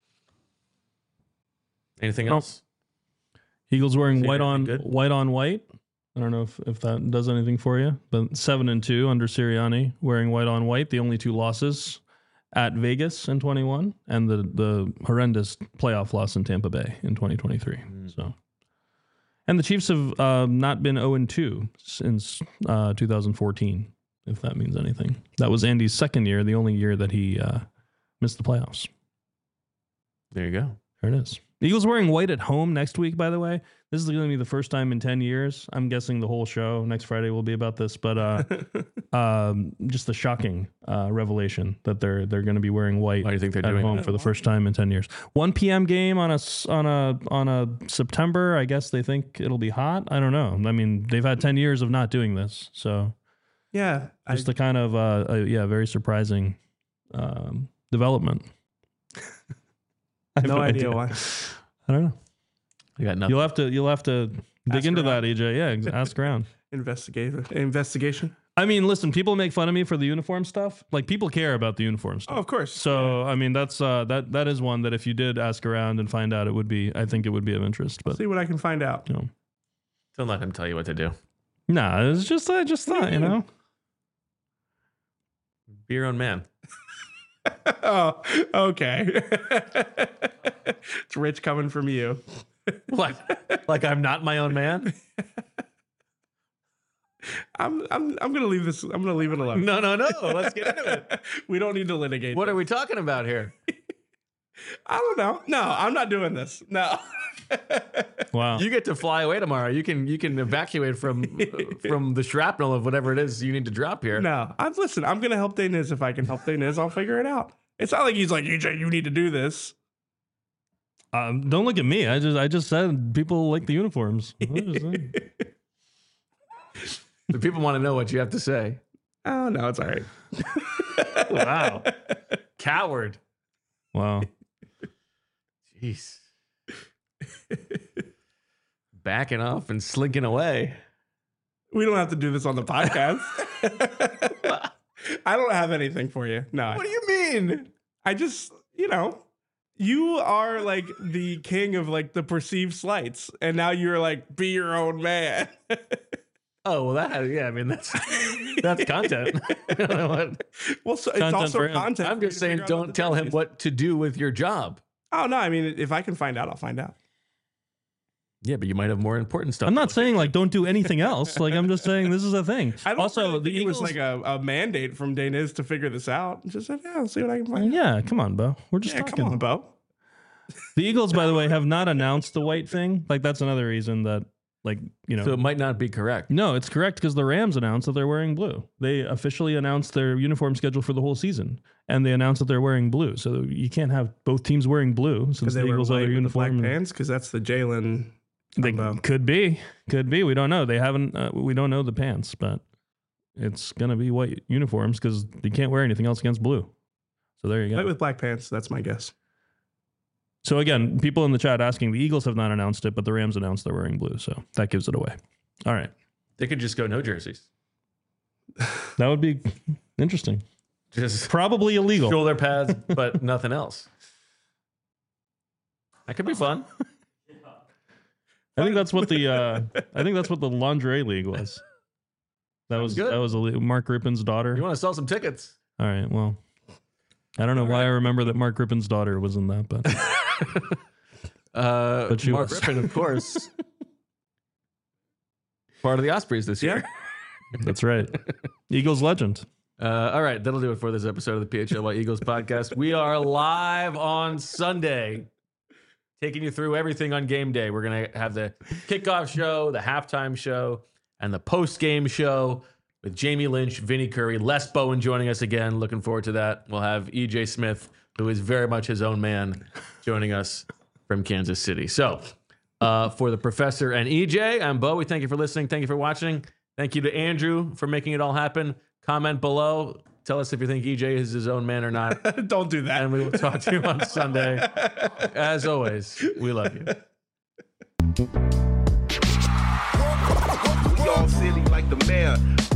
Anything else? Eagles wearing white on white. I don't know if that does anything for you, but 7-2 under Sirianni, wearing white on white. The only 2 losses at Vegas in 21, and the horrendous playoff loss in Tampa Bay in 2023. So, and the Chiefs have not been 0-2 since 2014, if that means anything. That was Andy's second year, the only year that he missed the playoffs. There you go. There it is. Eagles wearing white at home next week, by the way. This is going to be the first time in 10 years. I'm guessing the whole show next Friday will be about this, but just the shocking revelation that they're going to be wearing white. Why do you think they're at doing home that? For the first time in 10 years? 1 p.m. game on a September. I guess they think it'll be hot. I don't know. I mean, they've had 10 years of not doing this, so just the kind of very surprising development. No idea why. I don't know. I got nothing. You'll have to dig into that, EJ. Yeah, ask around. Investigation. I mean, listen, people make fun of me for the uniform stuff. Like people care about the uniform stuff. Oh, of course. So I mean, that's that is one that if you did ask around and find out, I think it would be of interest. But see what I can find out. Don't let him tell you what to do. Nah, it's just I just thought, Be your own man. Oh, okay. It's rich coming from you. What? Like I'm not my own man? I'm gonna leave this. I'm gonna leave it alone. No. Let's get into it. We don't need to litigate. What are we talking about here? I don't know. No, I'm not doing this. No. Wow. You get to fly away tomorrow. You can evacuate from the shrapnel of whatever it is you need to drop here. No, listen. I'm gonna help Daniz if I can help Daniz. I'll figure it out. It's not like he's like, EJ, you need to do this. Don't look at me. I just said people like the uniforms. The people want to know what you have to say. Oh no, it's all right. Wow. Coward. Wow. Jeez. Backing off and slinking away. We don't have to do this on the podcast. I don't have anything for you. No. What do you mean? I just, you are like the king of like the perceived slights, and now you're like, be your own man. Oh, well, I mean, that's content. I don't know what. Well, so it's Content also for him. content. I'm for you just to saying, figure out what don't the tell him jerseys- what to do with your job. Oh no, I mean, if I can find out, I'll find out. Yeah, but you might have more important stuff. I'm to not look saying like don't do anything else. Like I'm just saying this is a thing. I don't Also, really the think Eagles. it was like a mandate from Daniz to figure this out. Just said, yeah, I'll see what I can find. yeah, come on, Bo. We're just Yeah, talking. come on, Bo. The Eagles, by the way, have not announced the white thing. Like that's another reason that, like, you know. So it might not be correct. No, it's correct because the Rams announced that they're wearing blue. They officially announced their uniform schedule for the whole season, and they announced that they're wearing blue. So you can't have both teams wearing blue since Because the they were Eagles have white their with the black uniform. pants. Because that's the Jalen. They combo. could be. We don't know. They haven't. We don't know the pants, but it's gonna be white uniforms because you can't wear anything else against blue. So there you go. White with black pants. That's my guess. So again, people in the chat asking, the Eagles have not announced it, but the Rams announced they're wearing blue. So that gives it away. All right. They could just go no jerseys. That would be interesting. Just Probably illegal. shoulder pads, but nothing else. That could be fun. I think that's what the lingerie league was. That was good. Mark Rippon's daughter. You want to sell some tickets? All right. Well, I don't know why I remember that Mark Rippon's daughter was in that, but But she Mark was. Rippon, of course, part of the Ospreys this year. that's right. Eagles legend. All right, that'll do it for this episode of the PHLY Eagles podcast. We are live on Sunday, taking you through everything on game day. We're going to have the kickoff show, the halftime show, and the post-game show with Jamie Lynch, Vinny Curry, Les Bowen joining us again. Looking forward to that. We'll have EJ Smith, who is very much his own man, joining us from Kansas City. So for the professor and EJ, I'm Bo. We thank you for listening. Thank you for watching. Thank you to Andrew for making it all happen. Comment below. Tell us if you think EJ is his own man or not. Don't do that. And we will talk to you on Sunday. As always, we love you. We all silly like the mayor.